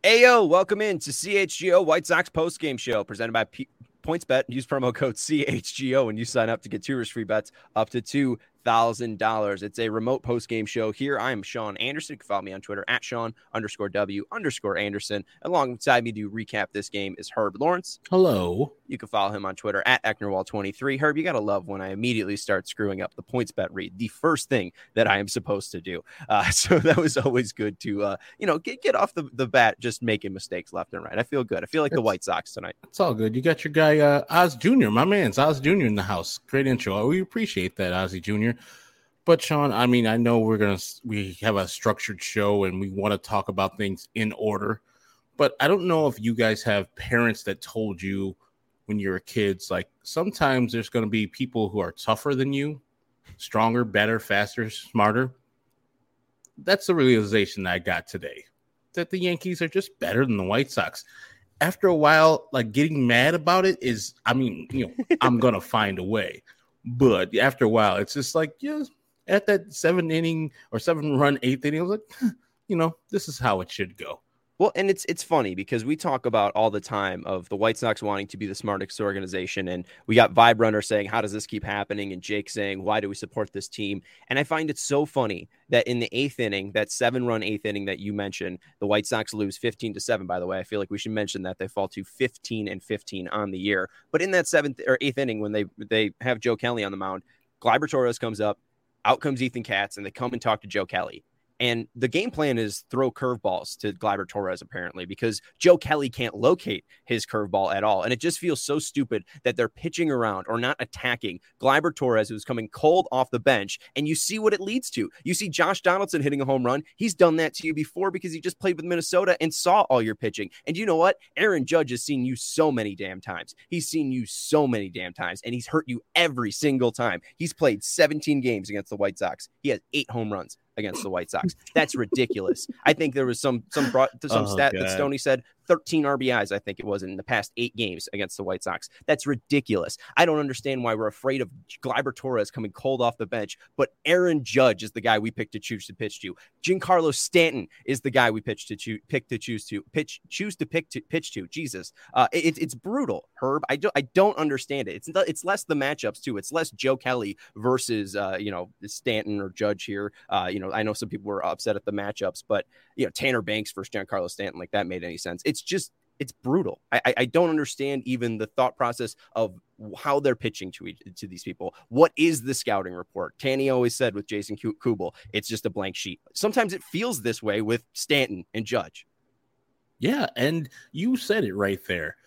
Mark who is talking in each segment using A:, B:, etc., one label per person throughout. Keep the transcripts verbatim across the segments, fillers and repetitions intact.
A: Ayo, welcome in to C H G O White Sox postgame show presented by P- PointsBet. Use promo code C H G O when you sign up to get two risk free bets up to two thousand dollars. It's a remote postgame show here. I am Sean Anderson. You can follow me on Twitter at Sean underscore W underscore Anderson. Alongside me to recap this game is Herb Lawrence.
B: Hello.
A: You can follow him on Twitter at Ecknerwall twenty-three. Herb, you got to love when I immediately start screwing up the PointsBet read, the first thing that I am supposed to do. Uh, so that was always good to, uh, you know, get, get off the, the bat just making mistakes left and right. I feel good. I feel like it's, the White Sox tonight.
B: It's all good. You got your guy, uh, Oz Junior My man's Oz Junior in the house. Great intro. We appreciate that, Ozzy Junior But, Sean, I mean, I know we're going to, we have a structured show and we want to talk about things in order. But I don't know if you guys have parents that told you when you were kids, like sometimes there's going to be people who are tougher than you, stronger, better, faster, smarter. That's the realization that I got today, that the Yankees are just better than the White Sox. After a while, like getting mad about it is, I mean, you know, I'm going to find a way. But after a while, it's just like, yeah, at that seven inning or seven run, eighth inning, I was like, you know, this is how it should go.
A: Well, and it's it's funny because we talk about all the time of the White Sox wanting to be the smartest organization, and we got Vibe Runner saying, how does this keep happening? And Jake saying, why do we support this team? And I find it so funny that in the eighth inning, that seven-run eighth inning that you mentioned, the White Sox lose fifteen to seven, by the way. I feel like we should mention that they fall to fifteen and fifteen on the year. But in that seventh or eighth inning, when they, they have Joe Kelly on the mound, Gleyber Torres comes up, out comes Ethan Katz, and they come and talk to Joe Kelly. And the game plan is throw curveballs to Gleyber Torres, apparently, because Joe Kelly can't locate his curveball at all. And it just feels so stupid that they're pitching around or not attacking Gleyber Torres, who's coming cold off the bench. And you see what it leads to. You see Josh Donaldson hitting a home run. He's done that to you before because he just played with Minnesota and saw all your pitching. And you know what? Aaron Judge has seen you so many damn times. He's seen you so many damn times, and he's hurt you every single time. He's played seventeen games against the White Sox. He has eight home runs against the White Sox. That's ridiculous. I think there was some some brought some
B: oh,
A: stat
B: God.
A: that Stoney said thirteen R B Is, I think it was, in the past eight games against the White Sox. That's ridiculous. I don't understand why we're afraid of Gleyber Torres coming cold off the bench, but Aaron Judge is the guy we picked to choose to pitch to. Giancarlo Stanton is the guy we pitch to choose pick to choose to pitch choose to pick to pitch to. Jesus, uh, it, it's brutal, Herb. I don't I don't understand it. It's it's less the matchups too. It's less Joe Kelly versus uh, you know Stanton or Judge here. Uh, you know I know some people were upset at the matchups, but you know Tanner Banks versus Giancarlo Stanton, like that made any sense? It's just it's brutal. I, I don't understand even the thought process of how they're pitching to each, to these people. What is the scouting report? Tanny always said with Jason Kubel, it's just a blank sheet. Sometimes it feels this way with Stanton and Judge.
B: Yeah, and you said it right there.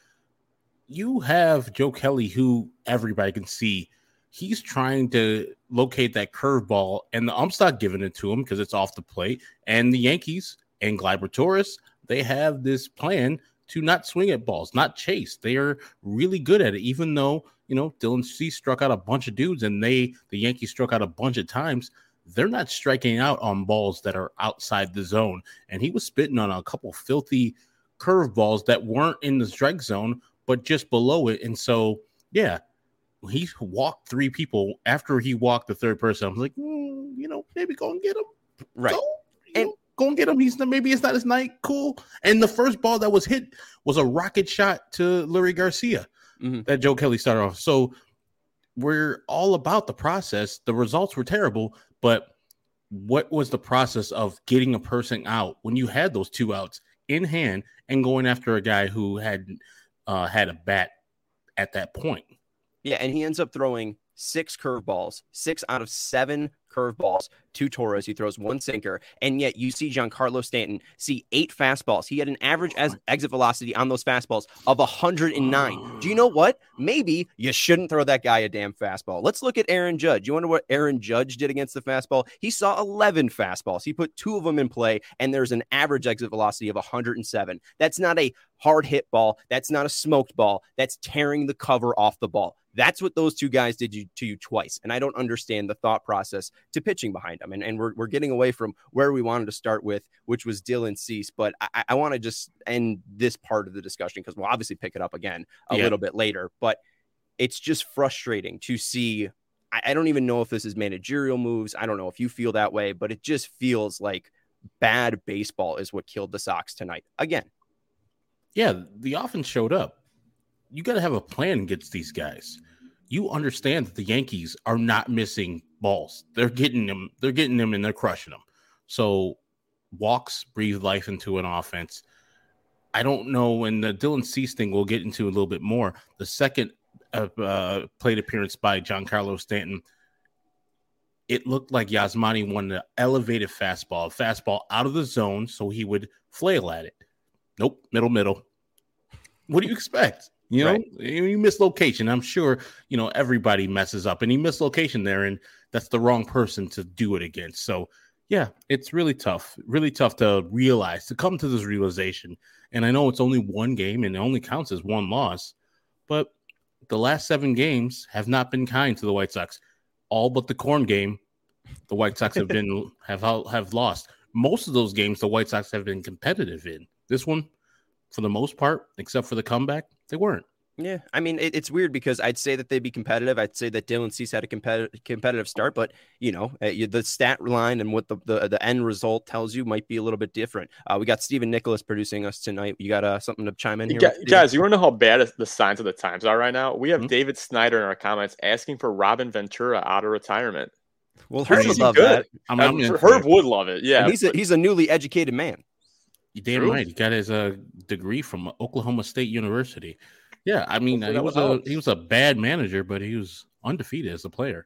B: You have Joe Kelly, who everybody can see. He's trying to locate that curveball, and the ump's not giving it to him because it's off the plate. And the Yankees and Gleyber Torres, they have this plan to not swing at balls, not chase. They are really good at it, even though, you know, Dylan Cease struck out a bunch of dudes and they, the Yankees struck out a bunch of times. They're not striking out on balls that are outside the zone. And he was spitting on a couple filthy curveballs that weren't in the strike zone, but just below it. And so, yeah, he walked three people. After he walked the third person, I was like, mm, you know, maybe go and get him.
A: Right.
B: Go, and know, go and get him. He's maybe it's not his night. Cool. And the first ball that was hit was a rocket shot to Leury Garcia mm-hmm. that Joe Kelly started off. So we're all about the process. The results were terrible, but what was the process of getting a person out when you had those two outs in hand and going after a guy who had uh, had a bat at that point?
A: Yeah, and he ends up throwing six curveballs, six out of seven curveballs to Torres. He throws one sinker, and yet you see Giancarlo Stanton see eight fastballs. He had an average as exit velocity on those fastballs of one hundred nine. Do you know what? Maybe you shouldn't throw that guy a damn fastball. Let's look at Aaron Judge. You wonder what Aaron Judge did against the fastball? He saw eleven fastballs. He put two of them in play, and there's an average exit velocity of one hundred seven. That's not a hard hit ball. That's not a smoked ball. That's tearing the cover off the ball. That's what those two guys did to you twice. And I don't understand the thought process to pitching behind them. And, and we're, we're getting away from where we wanted to start with, which was Dylan Cease. But I, I want to just end this part of the discussion because we'll obviously pick it up again a yeah. little bit later. But it's just frustrating to see. I, I don't even know if this is managerial moves. I don't know if you feel that way, but it just feels like bad baseball is what killed the Sox tonight again.
B: Yeah, the offense showed up. You got to have a plan against these guys. You understand that the Yankees are not missing balls. They're getting them. They're getting them, and they're crushing them. So walks breathe life into an offense. I don't know when the Dylan Cease thing we'll get into a little bit more. The second uh, uh, plate appearance by Giancarlo Stanton, it looked like Yasmani wanted an elevated fastball, a fastball out of the zone so he would flail at it. Nope, middle, middle. What do you expect? You know, right. You miss location. I'm sure, you know, everybody messes up, and he missed location there, and that's the wrong person to do it against. So, yeah, it's really tough, really tough to realize, to come to this realization. And I know it's only one game and it only counts as one loss, but the last seven games have not been kind to the White Sox. All but the corn game, the White Sox have been have have lost. Most of those games, the White Sox have been competitive in. This one, for the most part, except for the comeback, they weren't.
A: Yeah, I mean, it, it's weird because I'd say that they'd be competitive. I'd say that Dylan Cease had a competitive competitive start, but, you know, uh, you, the stat line and what the, the, the end result tells you might be a little bit different. Uh, we got Stephen Nicholas producing us tonight. You got uh, something to chime in here?
C: Guys, guys you want to know how bad the signs of the times are right now? We have mm-hmm. David Snyder in our comments asking for Robin Ventura out of retirement.
A: Well, Herb would love good. that.
C: I'm, I'm uh, Herb would love it, yeah.
A: And he's a, he's a newly educated man.
B: You're damn True. right. He got his uh, degree from Oklahoma State University. Yeah, I mean, he was a he was a bad manager, but he was undefeated as a player.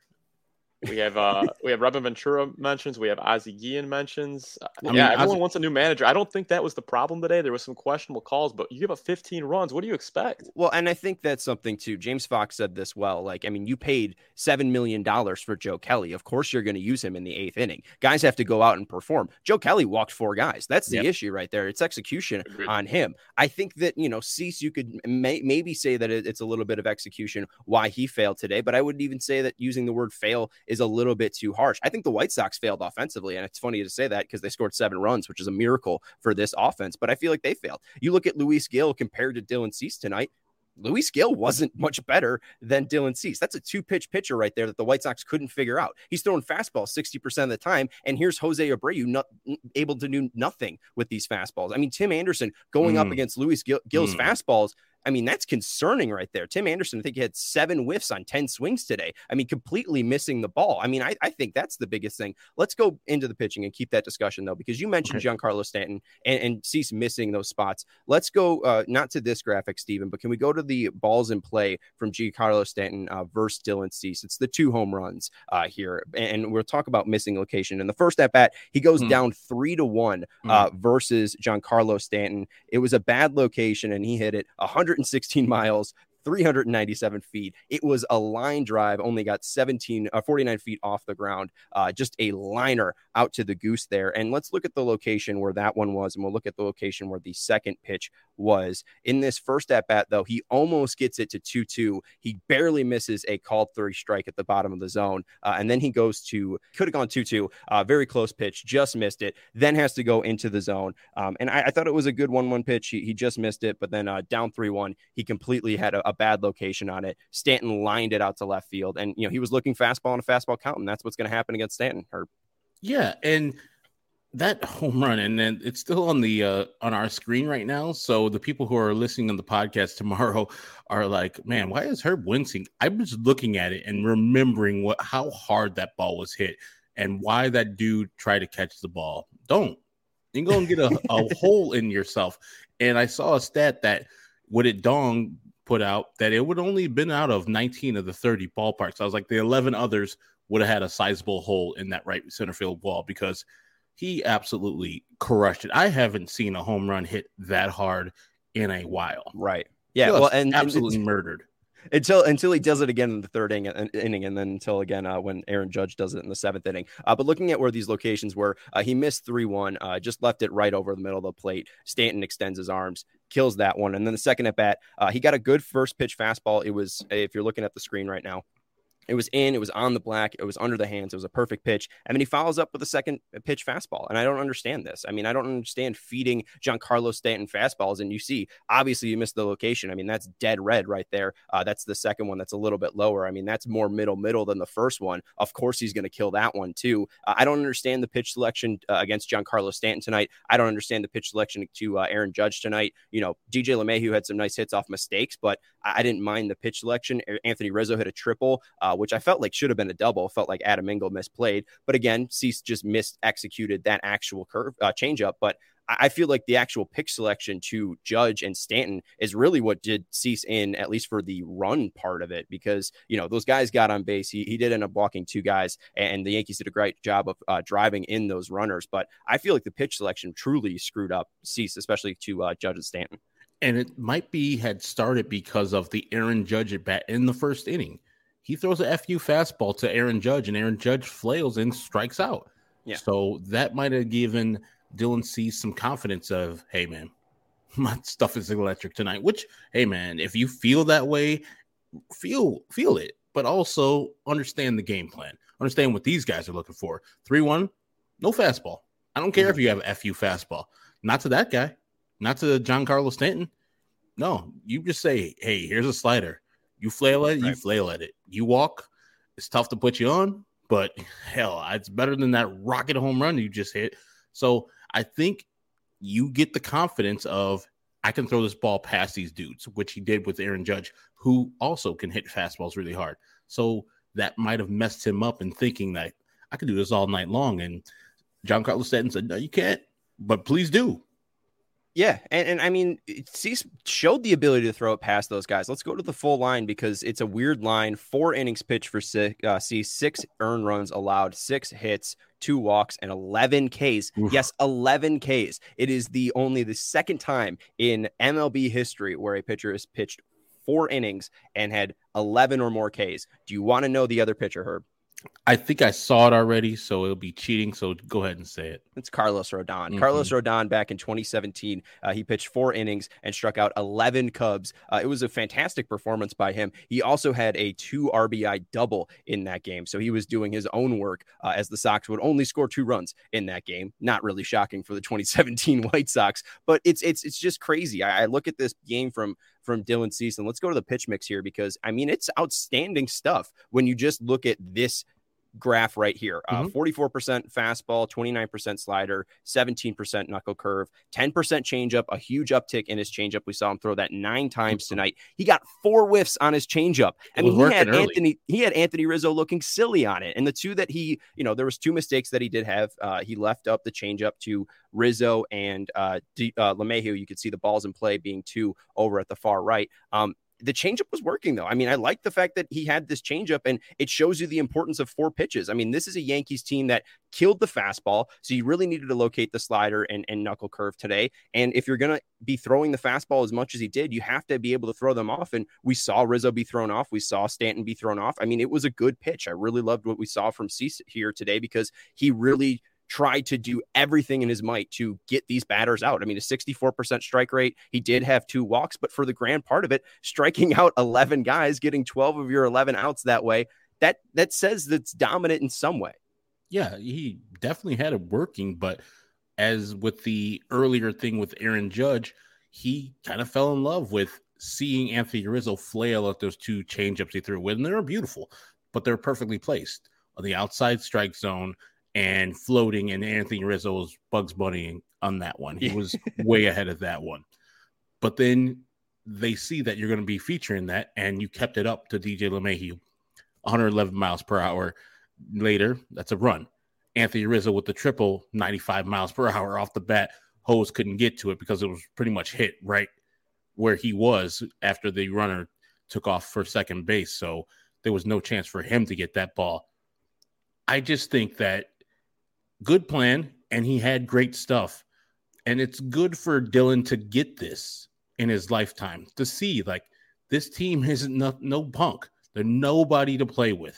C: We have uh we have Robin Ventura mentions. We have Ozzie Guillen mentions. Uh,
B: I mean,
C: yeah, everyone
B: Ozzie...
C: wants a new manager. I don't think that was the problem today. There was some questionable calls, but you give up fifteen runs. What do you expect?
A: Well, and I think that's something too. James Fox said this well. Like, I mean, you paid seven million dollars for Joe Kelly. Of course, you're going to use him in the eighth inning. Guys have to go out and perform. Joe Kelly walked four guys. That's the yep. issue right there. It's execution Agreed. on him. I think that, you know, Cease, you could may, maybe say that it's a little bit of execution why he failed today, but I wouldn't even say that using the word fail is a little bit too harsh. I think the White Sox failed offensively, and it's funny to say that because they scored seven runs, which is a miracle for this offense, but I feel like they failed. You look at Luis Gil compared to Dylan Cease tonight. Luis Gil wasn't much better than Dylan Cease. That's a two-pitch pitcher right there that the White Sox couldn't figure out. He's throwing fastballs sixty percent of the time, and here's Jose Abreu not able to do nothing with these fastballs. I mean, Tim Anderson going mm. up against Luis Gil, Gil's mm. fastballs, I mean, that's concerning right there. Tim Anderson, I think he had seven whiffs on ten swings today. I mean, completely missing the ball. I mean, I, I think that's the biggest thing. Let's go into the pitching and keep that discussion, though, because you mentioned okay. Giancarlo Stanton and, and Cease missing those spots. Let's go uh, not to this graphic, Steven, but can we go to the balls in play from Giancarlo Stanton uh, versus Dylan Cease? It's the two home runs uh, here, and we'll talk about missing location. In the first at-bat, he goes mm. down three to one uh, mm. versus Giancarlo Stanton. It was a bad location, and he hit it one hundred sixteen miles, three hundred ninety-seven feet. It was a line drive, only got seventeen, uh, forty-nine feet off the ground. Uh, just a liner out to the goose there. And let's look at the location where that one was, and we'll look at the location where the second pitch was. In this first at-bat, though, he almost gets it to two two. He barely misses a called three strike at the bottom of the zone. Uh, and then he goes to, could have gone two two, uh, very close pitch, just missed it, then has to go into the zone. Um, and I, I thought it was a good one one pitch. He, he just missed it, but then uh, down three one, he completely had a, a bad location on it. Stanton lined it out to left field, and you know he was looking fastball on a fastball count, and that's what's going to happen against Stanton. Herb.
B: Yeah, and that home run, and then it's still on the uh, on our screen right now. So the people who are listening on the podcast tomorrow are like, "Man, why is Herb wincing?" I was looking at it and remembering what how hard that ball was hit, and why that dude tried to catch the ball. Don't you go and get a, a hole in yourself. And I saw a stat that what it Dong put out that it would only been out of nineteen of the thirty ballparks. I was like, the eleven others would have had a sizable hole in that right center field wall because he absolutely crushed it. I haven't seen a home run hit that hard in a while.
A: Right. Yeah. Well, and
B: absolutely
A: and
B: murdered
A: until until he does it again in the third inning, inning and then until again uh, when Aaron Judge does it in the seventh inning. Uh, but looking at where these locations were, uh, he missed three one, uh, just left it right over the middle of the plate. Stanton extends his arms, kills that one. And then the second at bat, uh, he got a good first pitch fastball. It was, if you're looking at the screen right now, It was in, it was on the black, it was under the hands, it was a perfect pitch. I mean, he follows up with a second pitch fastball, and I don't understand this. I mean, I don't understand feeding Giancarlo Stanton fastballs, and you see, obviously, you missed the location. I mean, that's dead red right there. Uh, that's the second one that's a little bit lower. I mean, that's more middle middle than the first one. Of course, he's going to kill that one too. Uh, I don't understand the pitch selection uh, against Giancarlo Stanton tonight. I don't understand the pitch selection to uh, Aaron Judge tonight. You know, D J LeMahieu had some nice hits off mistakes, but I, I didn't mind the pitch selection. Anthony Rizzo hit a triple. Uh, which I felt like should have been a double. Felt like Adam Engel misplayed. But again, Cease just missed executed that actual curve uh, changeup. But I feel like the actual pitch selection to Judge and Stanton is really what did Cease in, at least for the run part of it, because, you know, those guys got on base. He, he did end up walking two guys, and the Yankees did a great job of uh, driving in those runners. But I feel like the pitch selection truly screwed up Cease, especially to uh, Judge and Stanton.
B: And it might be had started because of the Aaron Judge at bat in the first inning. He throws a F U fastball to Aaron Judge, and Aaron Judge flails and strikes out.
A: Yeah.
B: So that might have given Dylan Cease some confidence of, hey, man, my stuff is electric tonight, which, hey, man, if you feel that way, feel feel it, but also understand the game plan. Understand what these guys are looking for. three one, no fastball. I don't care mm-hmm. if you have an F U fastball. Not to that guy. Not to Giancarlo Stanton. No, you just say, hey, here's a slider. You flail at it, right. you flail at it. You walk, it's tough to put you on, but hell, it's better than that rocket home run you just hit. So I think you get the confidence of, I can throw this ball past these dudes, which he did with Aaron Judge, who also can hit fastballs really hard. So that might have messed him up in thinking that I could do this all night long. And Giancarlo Stanton said, no, you can't, but please do.
A: Yeah, and, and I mean, Cease showed the ability to throw it past those guys. Let's go to the full line because it's a weird line. Four innings pitched for uh, Cease, six earned runs allowed, six hits, two walks, and eleven Ks. Oof. Yes, eleven Ks. It is the only the second time in M L B history where a pitcher has pitched four innings and had eleven or more Ks. Do you want to know the other pitcher, Herb?
B: I think I saw it already, so it'll be cheating. So go ahead and say it.
A: It's Carlos Rodon.
B: Mm-hmm.
A: Carlos Rodon back in twenty seventeen. Uh, he pitched four innings and struck out eleven Cubs. Uh, it was a fantastic performance by him. He also had a two R B I double in that game. So he was doing his own work uh, as the Sox would only score two runs in that game. Not really shocking for the twenty seventeen White Sox, but it's it's it's just crazy. I, I look at this game from from Dylan Cease, and let's go to the pitch mix here because, I mean, it's outstanding stuff when you just look at this graph right here. Uh, mm-hmm. forty-four percent fastball, twenty-nine percent slider, seventeen percent knuckle curve, ten percent changeup, a huge uptick in his changeup. We saw him throw that nine times tonight. He got four whiffs on his changeup. I mean, he had early. Anthony, he had Anthony Rizzo looking silly on it. And the two that he, you know, there was two mistakes that he did have. Uh, he left up the changeup to Rizzo and uh, D, uh, LeMahieu. You could see the balls in play being two over at the far right. Um, The changeup was working, though. I mean, I like the fact that he had this changeup, and it shows you the importance of four pitches. I mean, this is a Yankees team that killed the fastball, so you really needed to locate the slider and, and knuckle curve today. And if you're going to be throwing the fastball as much as he did, you have to be able to throw them off. And we saw Rizzo be thrown off. We saw Stanton be thrown off. I mean, it was a good pitch. I really loved what we saw from Cease here today because he really tried to do everything in his might to get these batters out. I mean, a sixty-four percent strike rate. He did have two walks, but for the grand part of it, striking out eleven guys, getting twelve of your eleven outs that way, that that says that's dominant in some way.
B: Yeah, he definitely had it working, but as with the earlier thing with Aaron Judge, he kind of fell in love with seeing Anthony Rizzo flail at those two changeups he threw with, and they were beautiful, but they're perfectly placed on the outside strike zone and floating, and Anthony Rizzo was Bugs Bunny on that one. He was way ahead of that one. But then they see that you're going to be featuring that, and you kept it up to D J LeMahieu. one hundred eleven miles per hour. Later, that's a run. Anthony Rizzo with the triple, ninety-five miles per hour off the bat. Hose couldn't get to it because it was pretty much hit right where he was after the runner took off for second base. So there was no chance for him to get that ball. I just think that good plan, and he had great stuff. And it's good for Dylan to get this in his lifetime, to see, like, this team isn't no, no punk. They're nobody to play with.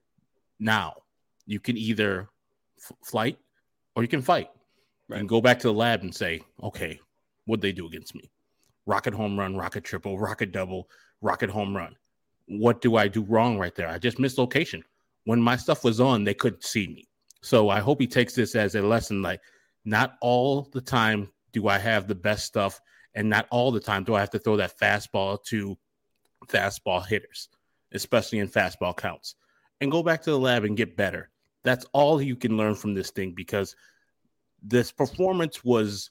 B: Now, you can either f- flight or you can fight. Right. You can go back to the lab and say, okay, what'd they do against me? Rocket home run, rocket triple, rocket double, rocket home run. what do I do wrong right there? I just missed location. When my stuff was on, they couldn't see me. So I hope he takes this as a lesson. Like, not all the time do I have the best stuff, and not all the time do I have to throw that fastball to fastball hitters, especially in fastball counts. And go back to the lab and get better. That's all you can learn from this thing, because this performance was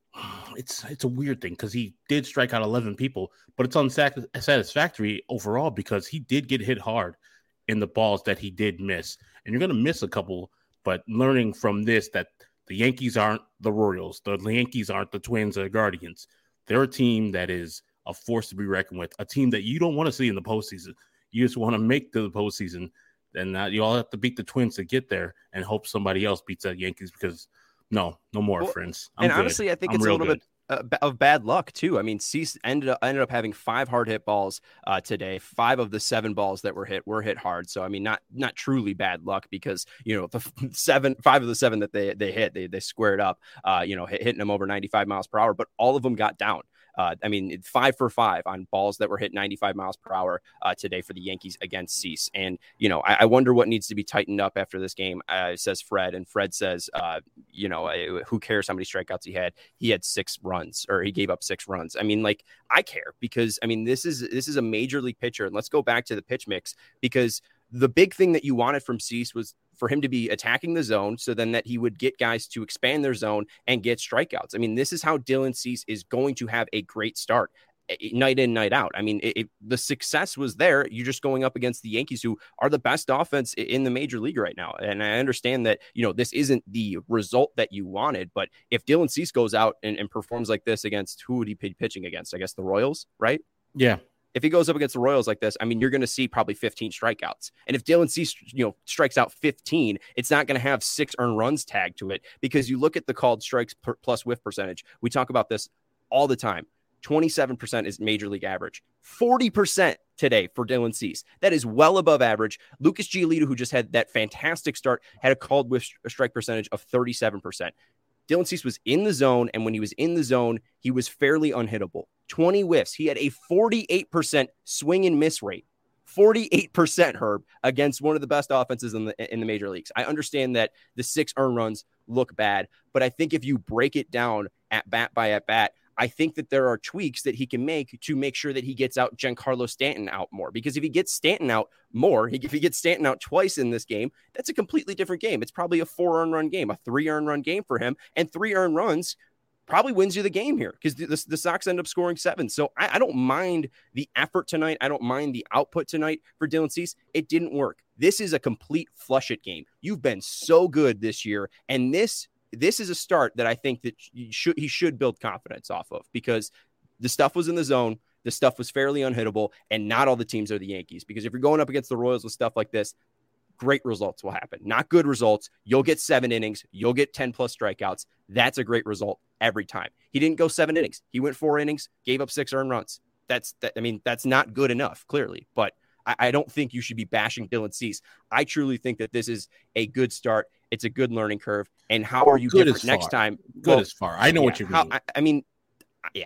B: it's it's a weird thing, because he did strike out eleven people, but it's unsatisfactory overall because he did get hit hard in the balls that he did miss. And you're going to miss a couple, but learning from this that the Yankees aren't the Royals, the Yankees aren't the Twins or the Guardians. They're a team that is a force to be reckoned with, a team that you don't want to see in the postseason. You just want to make the postseason. And uh, you all have to beat the Twins to get there and hope somebody else beats the Yankees, because no, no more,
A: well,
B: friends. I'm
A: and
B: good.
A: honestly, I think
B: I'm
A: it's a little
B: good.
A: bit uh, of bad luck too. I mean, Cease ended up ended up having five hard hit balls uh, today. Five of the seven balls that were hit were hit hard. So I mean, not not truly bad luck, because you know the seven, five of the seven that they they hit, they they squared up. Uh, you know, hit, hitting them over ninety-five miles per hour, but all of them got down. Uh, I mean, five for five on balls that were hit ninety-five miles per hour uh, today for the Yankees against Cease. And, you know, I, I wonder what needs to be tightened up after this game, uh, says Fred. And Fred says, uh, you know, who cares how many strikeouts he had? He had six runs, or he gave up six runs. I mean, like, I care, because, I mean, this is this is a major league pitcher. And let's go back to the pitch mix, because the big thing that you wanted from Cease was for him to be attacking the zone, so then that he would get guys to expand their zone and get strikeouts. I mean, this is how Dylan Cease is going to have a great start night in, night out. I mean, it, it, the success was there. You're just going up against the Yankees, who are the best offense in the major league right now. And I understand that, you know, this isn't the result that you wanted, but if Dylan Cease goes out and, and performs like this against, who would he be pitching against? I guess the Royals, right?
B: Yeah.
A: If he goes up against the Royals like this, I mean, you're going to see probably fifteen strikeouts. And if Dylan Cease, you know, strikes out fifteen, it's not going to have six earned runs tagged to it, because you look at the called strikes per plus whiff percentage. We talk about this all the time. twenty-seven percent is major league average. forty percent today for Dylan Cease. That is well above average. Lucas Giolito, who just had that fantastic start, had a called whiff strike percentage of thirty-seven percent. Dylan Cease was in the zone, and when he was in the zone, he was fairly unhittable. twenty whiffs. He had a forty-eight percent swing and miss rate. forty-eight percent, Herb, against one of the best offenses in the in the major leagues. I understand that the six earned runs look bad, but I think if you break it down at bat by at bat, I think that there are tweaks that he can make to make sure that he gets out Giancarlo Stanton out more. Because if he gets Stanton out more, if he gets Stanton out twice in this game, that's a completely different game. It's probably a four earned run game, a three earned run game for him, and three earned runs probably wins you the game here, because the, the, the Sox end up scoring seven. So I, I don't mind the effort tonight. I don't mind the output tonight for Dylan Cease. It didn't work. This is a complete flush it game. You've been so good this year, and this This is a start that I think that he should, he should build confidence off of, because the stuff was in the zone. The stuff was fairly unhittable, and not all the teams are the Yankees. Because if you're going up against the Royals with stuff like this, great results will happen. Not good results. You'll get seven innings. You'll get ten plus strikeouts. That's a great result every time. He didn't go seven innings. He went four innings, gave up six earned runs. That's, that, I mean, that's not good enough, clearly. But I, I don't think you should be bashing Dylan Cease. I truly think that this is a good start. It's a good learning curve. And how are you
B: good
A: different next
B: far.
A: time?
B: Good
A: well,
B: as far. I know
A: yeah,
B: what you mean.
A: How, I, I mean, yeah,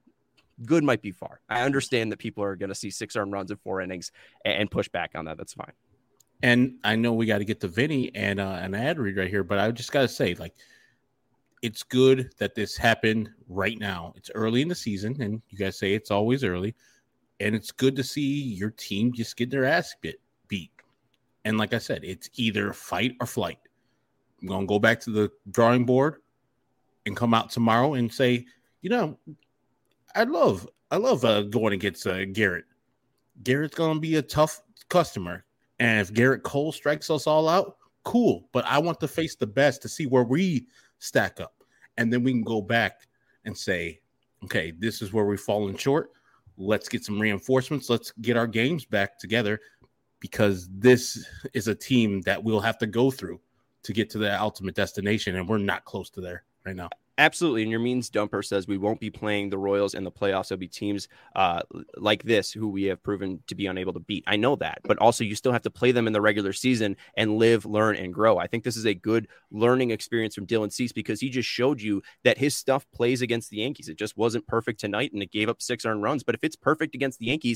A: good might be far. I understand that people are going to see six earned runs in four innings and, and push back on that. That's fine.
B: And I know we got to get to Vinny and uh, an ad read right here, but I just got to say, like, it's good that this happened right now. It's early in the season, and you guys say it's always early. And it's good to see your team just get their ass bit, beat. And like I said, it's either fight or flight. I'm going to go back to the drawing board and come out tomorrow and say, you know, I love I love uh, going against uh, Garrett. Garrett's going to be a tough customer. And if Garrett Cole strikes us all out, cool. But I want to face the best to see where we stack up. And then we can go back and say, okay, this is where we've fallen short. Let's get some reinforcements. Let's get our games back together, because this is a team that we'll have to go through to get to the ultimate destination. And we're not close to there right now.
A: Absolutely. And your means dumper says we won't be playing the Royals in the playoffs. It'll be teams uh, like this who we have proven to be unable to beat. I know that, but also you still have to play them in the regular season and live, learn, and grow. I think this is a good learning experience from Dylan Cease, because he just showed you that his stuff plays against the Yankees. It just wasn't perfect tonight, and it gave up six earned runs. But if it's perfect against the Yankees,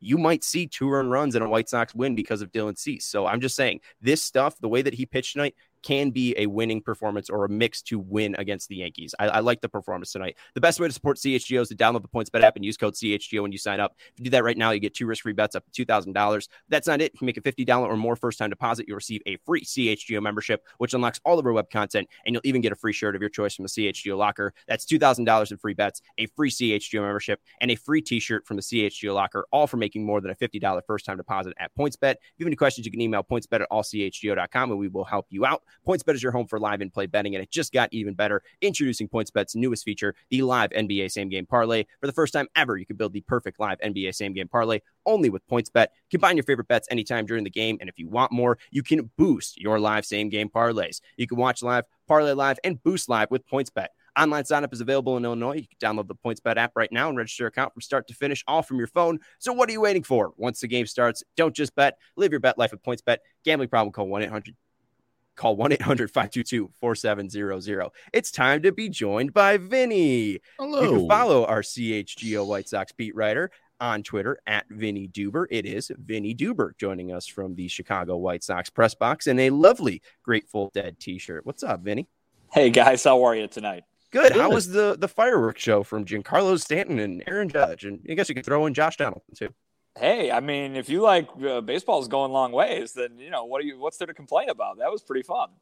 A: you might see two earned runs in a White Sox win because of Dylan Cease. So I'm just saying this stuff, the way that he pitched tonight, can be a winning performance or a mix to win against the Yankees. I, I like the performance tonight. The best way to support C H G O is to download the PointsBet app and use code C H G O when you sign up. If you do that right now, you get two risk-free bets up to two thousand dollars. That's not it. If you make a fifty dollars or more first-time deposit, you'll receive a free C H G O membership, which unlocks all of our web content, and you'll even get a free shirt of your choice from the C H G O locker. That's two thousand dollars in free bets, a free C H G O membership, and a free t-shirt from the C H G O locker, all for making more than a fifty dollars first-time deposit at PointsBet. If you have any questions, you can email pointsbet at all c h g o dot com, and we will help you out. PointsBet is your home for live and play betting, and it just got even better. Introducing PointsBet's newest feature, the live N B A same game parlay. For the first time ever, you can build the perfect live N B A same game parlay only with PointsBet. Combine your favorite bets anytime during the game, and if you want more, you can boost your live same game parlays. You can watch live, parlay live, and boost live with PointsBet. Online signup is available in Illinois. You can download the PointsBet app right now and register your account from start to finish, all from your phone. So what are you waiting for? Once the game starts, don't just bet. Live your bet life with PointsBet. Gambling problem, call one eight hundred Call one eight hundred five two two four seven zero zero. It's time to be joined by Vinny.
B: Hello.
A: You can follow our C H G O White Sox beat writer on Twitter at Vinny Duber. It is Vinny Duber joining us from the Chicago White Sox press box in a lovely Grateful Dead t-shirt. What's up, Vinny?
D: Hey, guys. How are you tonight?
A: Good. Good. How was the, the fireworks show from Giancarlo Stanton and Aaron Judge? And I guess you could throw in Josh Donaldson, too.
D: Hey, I mean, if you like uh, baseball's going long ways, then, you know, what are you, what's there to complain about? That was pretty fun.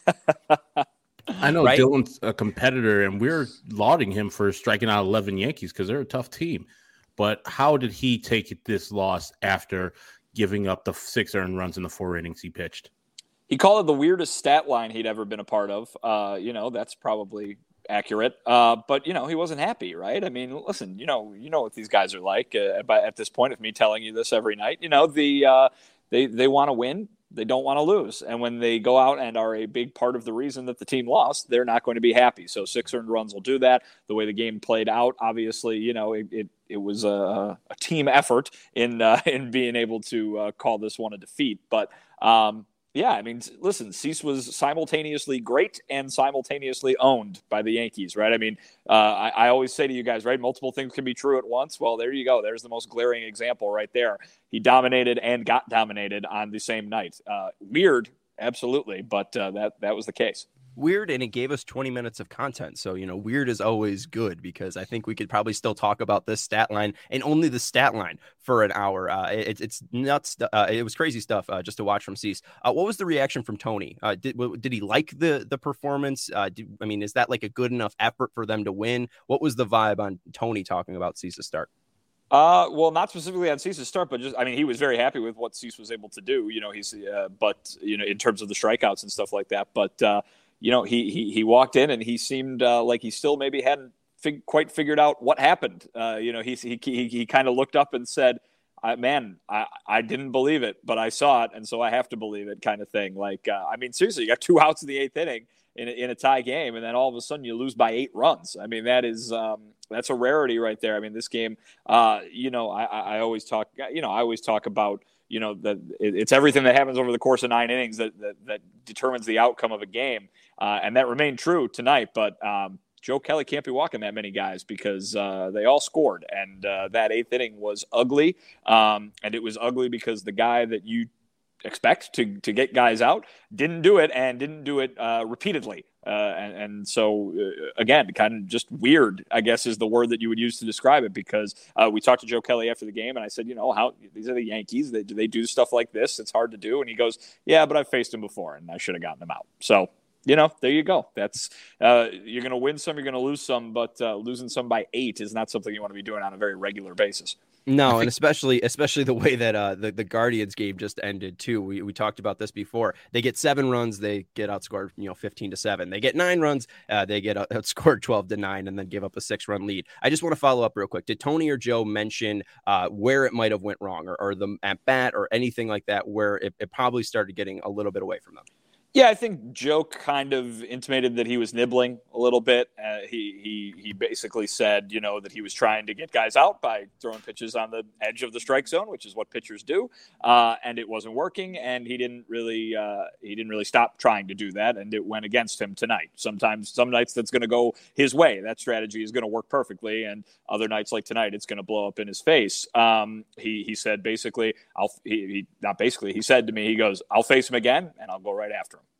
B: I know
A: right?
B: Dylan's a competitor, and we're lauding him for striking out eleven Yankees because they're a tough team. But how did he take this loss after giving up the six earned runs in the four innings he pitched?
D: He called it the weirdest stat line he'd ever been a part of. Uh, you know, that's probably accurate. Uh, but, you know, he wasn't happy, right? I mean, listen, you know, you know what these guys are like. Uh, but at this point of me telling you this every night, you know, the uh, they, they want to win. They don't want to lose. And when they go out and are a big part of the reason that the team lost, they're not going to be happy. So six earned runs will do that. The way the game played out, obviously, you know, it it, it was a, a team effort in, uh, in being able to uh, call this one a defeat. But, um, yeah, I mean, listen, Cease was simultaneously great and simultaneously owned by the Yankees, right? I mean, uh, I, I always say to you guys, right, multiple things can be true at once. Well, there you go. There's the most glaring example right there. He dominated and got dominated on the same night. Uh, weird, absolutely, but uh, that that was the case.
A: Weird, and it gave us twenty minutes of content. So, you know, weird is always good because I think we could probably still talk about this stat line and only the stat line for an hour. Uh, it, it's nuts. Uh, it was crazy stuff uh, just to watch from Cease. Uh, what was the reaction from Tony? Uh, did did he like the the performance? Uh, did, I mean, is that like a good enough effort for them to win? What was the vibe on Tony talking about Cease's start?
D: Uh, well, not specifically on Cease's start, but just, I mean, he was very happy with what Cease was able to do, you know, he's, uh, but, you know, in terms of the strikeouts and stuff like that. But, uh, you know, he, he, he walked in and he seemed uh, like he still maybe hadn't fig- quite figured out what happened. Uh, you know, he, he, he, he kind of looked up and said, I, man, I, I didn't believe it, but I saw it. And so I have to believe it kind of thing. Like, uh, I mean, seriously, you got two outs in the eighth inning in a, in a tie game. And then all of a sudden you lose by eight runs. I mean, that is, um, that's a rarity right there. I mean, this game, uh, you know, I, I always talk, you know, I always talk about, you know, that it's everything that happens over the course of nine innings that, that, that determines the outcome of a game. Uh, and that remained true tonight, but, um, Joe Kelly can't be walking that many guys because uh, they all scored. And uh, that eighth inning was ugly. Um, and it was ugly because the guy that you expect to, to get guys out didn't do it and didn't do it uh, repeatedly. Uh, and, and so, uh, again, kind of just weird, I guess, is the word that you would use to describe it, because uh, we talked to Joe Kelly after the game and I said, you know, how these are the Yankees. They, do they do stuff like this? It's hard to do. And he goes, yeah, but I've faced him before and I should have gotten him out. So, you know, there you go. That's uh, you're going to win some, you're going to lose some, but uh, losing some by eight is not something you want to be doing on a very regular basis.
A: No, and especially especially the way that uh, the, the Guardians game just ended, too. We we talked about this before. They get seven runs, they get outscored, you know, fifteen to seven. They get nine runs, uh, they get outscored twelve to nine, and then give up a six-run lead. I just want to follow up real quick. Did Tony or Joe mention uh, where it might have went wrong, or, or the at bat or anything like that, where it, it probably started getting a little bit away from them?
D: Yeah, I think Joe kind of intimated that he was nibbling a little bit. Uh, he he he basically said, you know, that he was trying to get guys out by throwing pitches on the edge of the strike zone, which is what pitchers do, uh, and it wasn't working. And he didn't really uh, he didn't really stop trying to do that, and it went against him tonight. Sometimes, some nights that's going to go his way. That strategy is going to work perfectly, and other nights like tonight, it's going to blow up in his face. Um, he he said basically, I'll he, he not basically he said to me, he goes, I'll face him again, and I'll go right after him.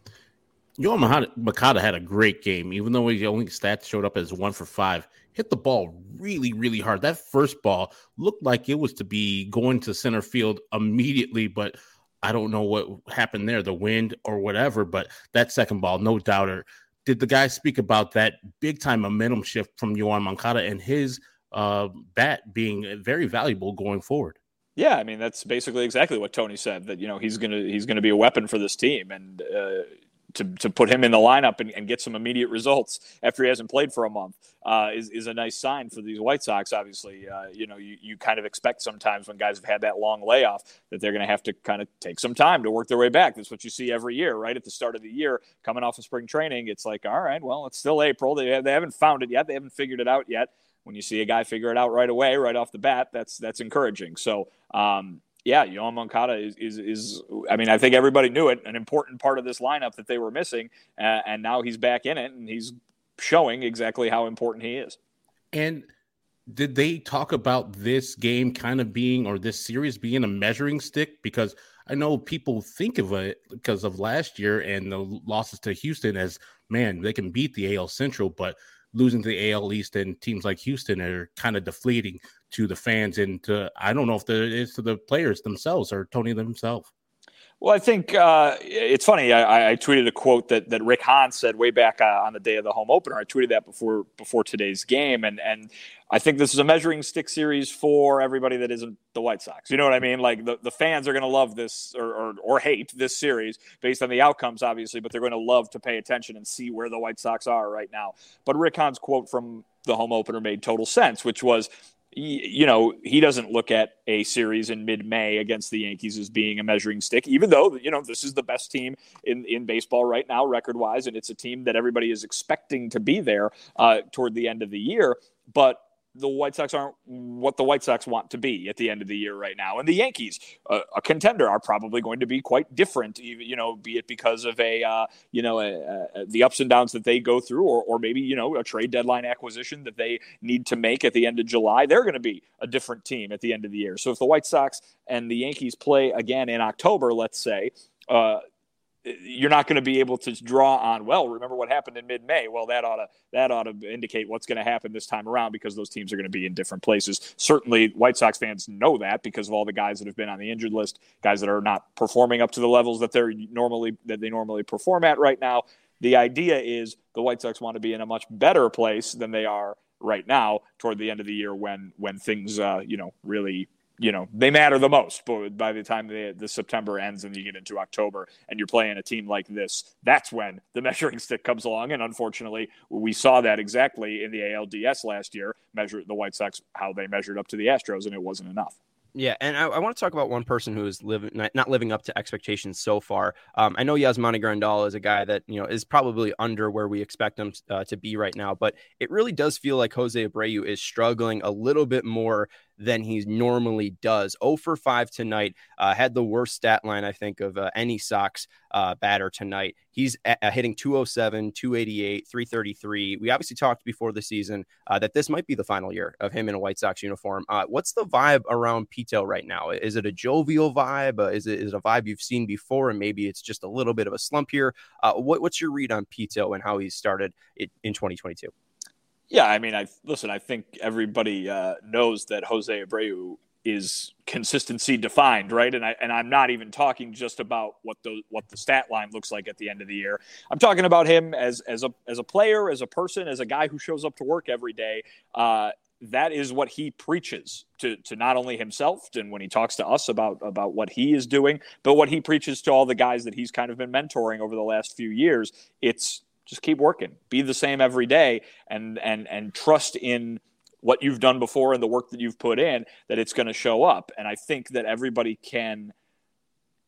B: Yoan Moncada had a great game, even though his only stats showed up as one for five. Hit the ball really, really hard. That first ball looked like it was to be going to center field immediately, but I don't know what happened there, the wind or whatever. But that second ball, no doubter. Did the guy speak about that big-time momentum shift from Yoan Moncada and his uh, bat being very valuable going forward?
D: Yeah, I mean, that's basically exactly what Tony said, that, you know, he's going to he's going to be a weapon for this team. And uh, to to put him in the lineup and, and get some immediate results after he hasn't played for a month uh, is, is a nice sign for these White Sox. Obviously, uh, you know, you, you kind of expect sometimes when guys have had that long layoff that they're going to have to kind of take some time to work their way back. That's what you see every year, right? At the start of the year, coming off of spring training, it's like, all right, well, it's still April. They, have, they haven't found it yet. They haven't figured it out yet. When you see a guy figure it out right away, right off the bat, that's that's encouraging. So, um, yeah, Yoan Moncada is, is, is, I mean, I think everybody knew it, an important part of this lineup that they were missing, uh, and now he's back in it, and he's showing exactly how important he is.
B: And did they talk about this game kind of being, or this series being a measuring stick? Because I know people think of it because of last year and the losses to Houston as, man, they can beat the A L Central, but losing to the A L East and teams like Houston are kind of deflating to the fans and to, I don't know if the, it's to the players themselves or Tony themselves.
D: Well, I think uh, it's funny. I, I tweeted a quote that, that Rick Hahn said way back uh, on the day of the home opener. I tweeted that before before today's game, and and I think this is a measuring stick series for everybody that isn't the White Sox. You know what I mean? Like the, the fans are going to love this or, or or hate this series based on the outcomes, obviously, but they're going to love to pay attention and see where the White Sox are right now. But Rick Hahn's quote from the home opener made total sense, which was, you know, he doesn't look at a series in mid-May against the Yankees as being a measuring stick, even though, you know, this is the best team in, in baseball right now, record-wise, and it's a team that everybody is expecting to be there uh, toward the end of the year. But the White Sox aren't what the White Sox want to be at the end of the year right now. And the Yankees, uh, a contender, are probably going to be quite different, you know, be it because of a, uh, you know, a, a, the ups and downs that they go through, or, or maybe, you know, a trade deadline acquisition that they need to make at the end of July. They're going to be a different team at the end of the year. So if the White Sox and the Yankees play again in October, let's say, uh, you're not going to be able to draw on, well, remember what happened in mid-May. Well, that ought to that ought to indicate what's going to happen this time around, because those teams are going to be in different places. Certainly, White Sox fans know that because of all the guys that have been on the injured list, guys that are not performing up to the levels that they're normally that they normally perform at right now. The idea is the White Sox want to be in a much better place than they are right now toward the end of the year when when things uh, you know really. You know, they matter the most. But by the time the, the September ends and you get into October and you're playing a team like this, that's when the measuring stick comes along. And unfortunately, we saw that exactly in the A L D S last year, measure the White Sox, how they measured up to the Astros, and it wasn't enough.
A: Yeah, and I, I want to talk about one person who is living not, not living up to expectations so far. Um, I know Yasmani Grandal is a guy that, you know, is probably under where we expect him uh, to be right now, but it really does feel like Jose Abreu is struggling a little bit more than he normally does. oh for five tonight, uh, had the worst stat line, I think, of uh, any Sox uh, batter tonight. He's uh, hitting two oh seven, two eighty-eight, three thirty-three. We obviously talked before the season uh, that this might be the final year of him in a White Sox uniform. Uh, what's the vibe around Pito right now? Is it a jovial vibe? Uh, is, it, is it a vibe you've seen before, and maybe it's just a little bit of a slump here? Uh, what, what's your read on Pito and how he started it in twenty twenty-two?
D: Yeah, I mean, I listen, I think everybody uh, knows that Jose Abreu is consistency defined, right? And I and I'm not even talking just about what the what the stat line looks like at the end of the year. I'm talking about him as as a as a player, as a person, as a guy who shows up to work every day. Uh, that is what he preaches to to not only himself, and when he talks to us about about what he is doing, but what he preaches to all the guys that he's kind of been mentoring over the last few years. It's just keep working, be the same every day, and and and trust in what you've done before and the work that you've put in, that it's going to show up. And I think that everybody can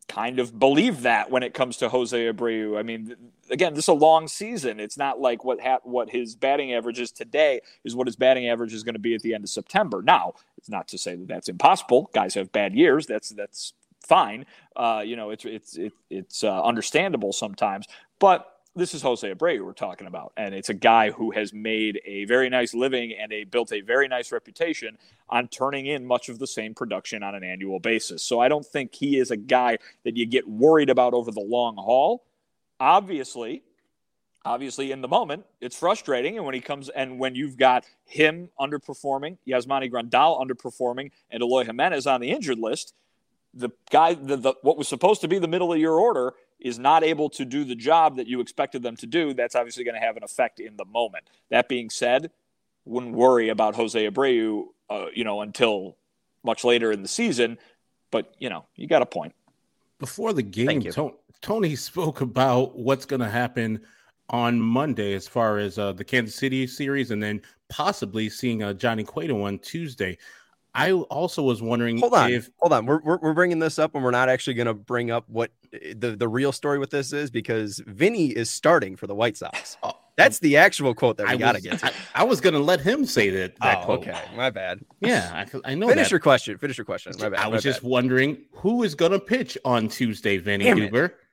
D: kind of believe that when it comes to Jose Abreu. I mean, again, this is a long season. It's not like what ha- what his batting average is today is what his batting average is going to be at the end of September. Now, it's not to say that that's impossible. Guys have bad years. That's that's fine. Uh, you know, it's it's it, it's uh, understandable sometimes. But this is Jose Abreu we're talking about, and it's a guy who has made a very nice living and a built a very nice reputation on turning in much of the same production on an annual basis. So I don't think he is a guy that you get worried about over the long haul. Obviously, obviously in the moment, it's frustrating. And when he comes and when you've got him underperforming, Yasmani Grandal underperforming, and Eloy Jimenez on the injured list, the guy, the, the what was supposed to be the middle of your order is not able to do the job that you expected them to do. That's obviously going to have an effect in the moment. That being said, wouldn't worry about Jose Abreu, uh, you know, until much later in the season. But, you know, you got a point.
B: Before the game, Tony, Tony spoke about what's going to happen on Monday as far as uh, the Kansas City series and then possibly seeing uh, Johnny Cueto on Tuesday. I also was wondering.
A: Hold on,
B: if
A: hold on. We're, we're we're bringing this up, and we're not actually going to bring up what the the real story with this is, because Vinny is starting for the White Sox. Oh, That's the actual quote that we got to get to.
B: I, I was going to let him say that. that
A: oh,
B: quote.
A: Okay, my bad.
B: Yeah, I, I know.
A: Finish
B: that.
A: your question. Finish your question. My bad.
B: I was
A: my
B: just
A: bad.
B: wondering who is going to pitch on Tuesday, Vinny
A: Damn
B: Huber.
A: It.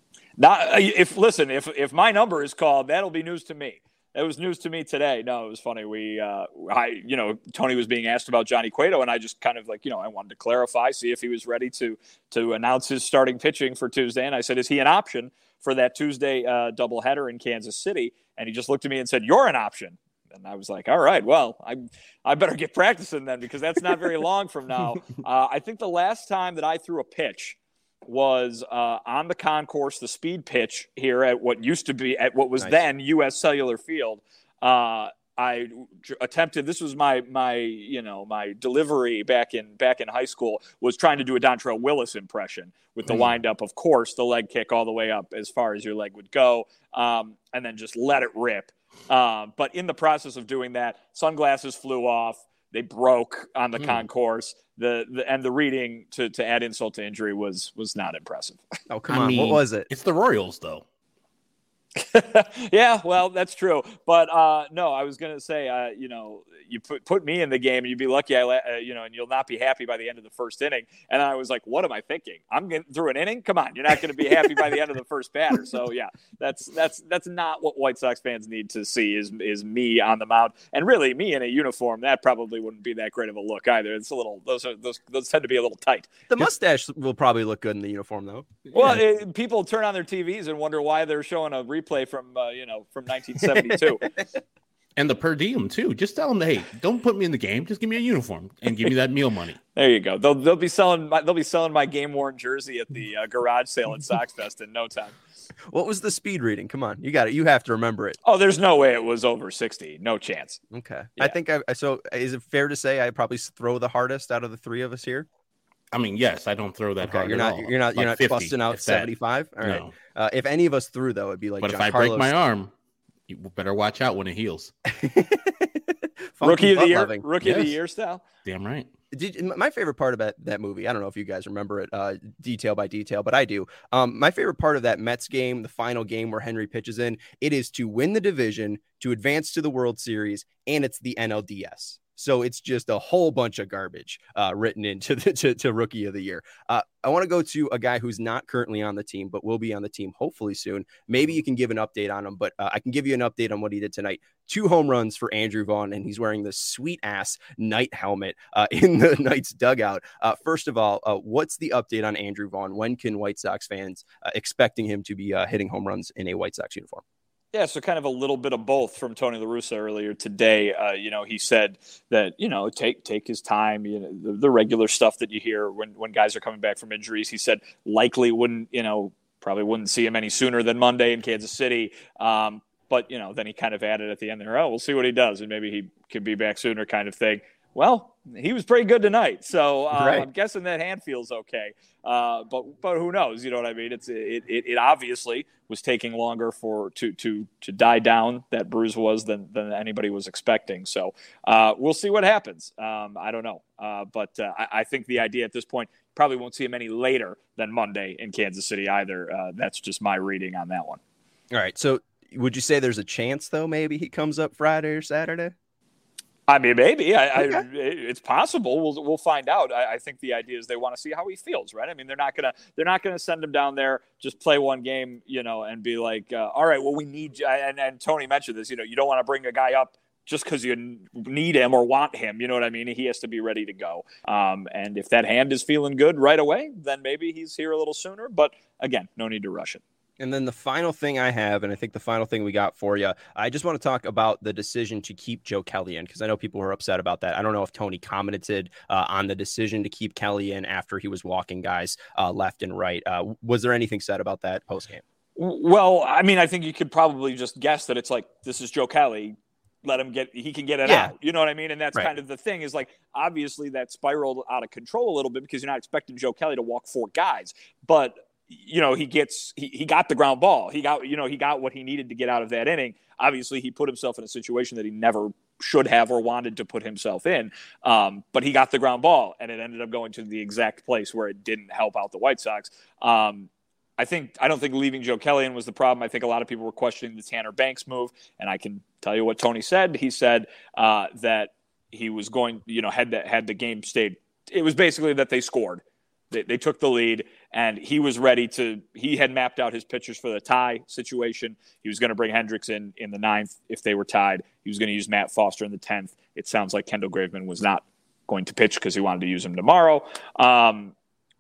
D: Not if listen, if if my number is called, that'll be news to me. It was news to me today. No, it was funny. We, uh, I, you know, Tony was being asked about Johnny Cueto, and I just kind of like, you know, I wanted to clarify, see if he was ready to to announce his starting pitching for Tuesday. And I said, is he an option for that Tuesday uh, doubleheader in Kansas City? And he just looked at me and said, you're an option. And I was like, all right, well, I I better get practicing then, because that's not very long from now. Uh, I think the last time that I threw a pitch was uh, on the concourse, the speed pitch here at what used to be at what was nice. Then U S Cellular Field. Uh, I attempted, this was my, my, you know, my delivery back in, back in high school, was trying to do a Dontrelle Willis impression with the mm. windup, of course, the leg kick all the way up as far as your leg would go. Um, and then just let it rip. Um, but in the process of doing that, sunglasses flew off. They broke on the mm. concourse. The, the and the reading to, to add insult to injury was was not impressive.
A: Oh, come
B: I
A: on.
B: mean,
A: what was it?
B: It's the Royals, though.
D: Yeah, well, that's true. But uh, no, I was going to say, uh, you know, you put put me in the game and you'd be lucky, I, uh, you know, and you'll not be happy by the end of the first inning. And I was like, what am I thinking? I'm getting through an inning? Come on, you're not going to be happy by the end of the first batter. So yeah, that's that's that's not what White Sox fans need to see is is me on the mound, and really me in a uniform. That probably wouldn't be that great of a look either. It's a little those are those those tend to be a little tight.
A: The mustache will probably look good in the uniform though.
D: Well, yeah. it, people turn on their T Vs and wonder why they're showing a replay from uh, you know from nineteen seventy-two.
B: And the per diem too. Just tell them, hey, don't put me in the game. Just give me a uniform and give me that meal money.
D: There you go. They'll they'll be selling my, they'll be selling my game worn jersey at the uh, garage sale at Sox Fest in no time.
A: What was the speed reading? Come on, you got it. You have to remember it.
D: Oh, there's no way it was over sixty. No chance.
A: Okay,
D: yeah.
A: I think I. So, is it fair to say I probably throw the hardest out of the three of us here?
B: I mean, yes, I don't throw that
A: okay,
B: hard.
A: You're not.
B: At all.
A: You're not. You're
B: like
A: not busting out seventy-five. All right.
B: No.
A: Uh, if any of us threw, though, it'd be like.
B: But
A: John
B: if I
A: Carlos.
B: break my arm, you better watch out when it heals.
D: Rookie of the year,
A: loving.
D: rookie
B: yes.
D: of the year style.
B: Damn right.
A: Did, my favorite part about that movie, I don't know if you guys remember it uh, detail by detail, but I do. Um, my favorite part of that Mets game, the final game where Henry pitches in, it is to win the division, to advance to the World Series, and it's the N L D S. So it's just a whole bunch of garbage uh, written into the to, to Rookie of the Year. Uh, I want to go to a guy who's not currently on the team, but will be on the team hopefully soon. Maybe you can give an update on him, but uh, I can give you an update on what he did tonight. Two home runs for Andrew Vaughn, and he's wearing this sweet-ass Knight helmet uh, in the Knights dugout. Uh, first of all, uh, what's the update on Andrew Vaughn? When can White Sox fans uh, expecting him to be uh, hitting home runs in a White Sox uniform?
D: Yeah, so kind of a little bit of both from Tony La Russa earlier today. Uh, you know, he said that, you know, take take his time, you know, the, the regular stuff that you hear when, when guys are coming back from injuries. He said likely wouldn't, you know, probably wouldn't see him any sooner than Monday in Kansas City. Um, but, you know, then he kind of added at the end there, oh, we'll see what he does, and maybe he could be back sooner kind of thing. Well, he was pretty good tonight, so uh,
A: right.
D: I'm guessing that hand feels okay. Uh, but but who knows? You know what I mean? It's it it, it obviously was taking longer for to to to die down. That bruise was than than anybody was expecting. So uh, we'll see what happens. Um, I don't know, uh, but uh, I, I think the idea at this point probably won't see him any later than Monday in Kansas City either. Uh, that's just my reading on that one.
A: All right. So would you say there's a chance though? Maybe he comes up Friday or Saturday.
D: I mean, maybe I,
A: okay.
D: I, it's possible. We'll we'll find out. I, I think the idea is they want to see how he feels, right? I mean, they're not gonna they're not gonna send him down there just play one game, you know, and be like, uh, all right, well, we need you. And and Tony mentioned this. You know, you don't want to bring a guy up just because you need him or want him. You know what I mean? He has to be ready to go. Um, and if that hand is feeling good right away, then maybe he's here a little sooner. But again, no need to rush it.
A: And then the final thing I have, and I think the final thing we got for you, I just want to talk about the decision to keep Joe Kelly in, because I know people were upset about that. I don't know if Tony commented uh, on the decision to keep Kelly in after he was walking guys uh, left and right. Uh, was there anything said about that postgame?
D: Well, I mean, I think you could probably just guess that it's like, this is Joe Kelly. Let him get, he can get it
A: yeah.
D: out. You know what I mean? And that's
A: right.
D: kind of the thing is like, obviously that spiraled out of control a little bit because you're not expecting Joe Kelly to walk four guys, but you know, he gets, he, he got the ground ball. He got, you know, he got what he needed to get out of that inning. Obviously he put himself in a situation that he never should have or wanted to put himself in. Um, but he got the ground ball and it ended up going to the exact place where it didn't help out the White Sox. Um, I think, I don't think leaving Joe Kelly in was the problem. I think a lot of people were questioning the Tanner Banks move. And I can tell you what Tony said. He said uh, that he was going, you know, had that, had the game stayed. It was basically that they scored. They, they took the lead, and he was ready to – he had mapped out his pitchers for the tie situation. He was going to bring Hendricks in in the ninth if they were tied. He was going to use Matt Foster in the tenth. It sounds like Kendall Graveman was not going to pitch because he wanted to use him tomorrow. Um,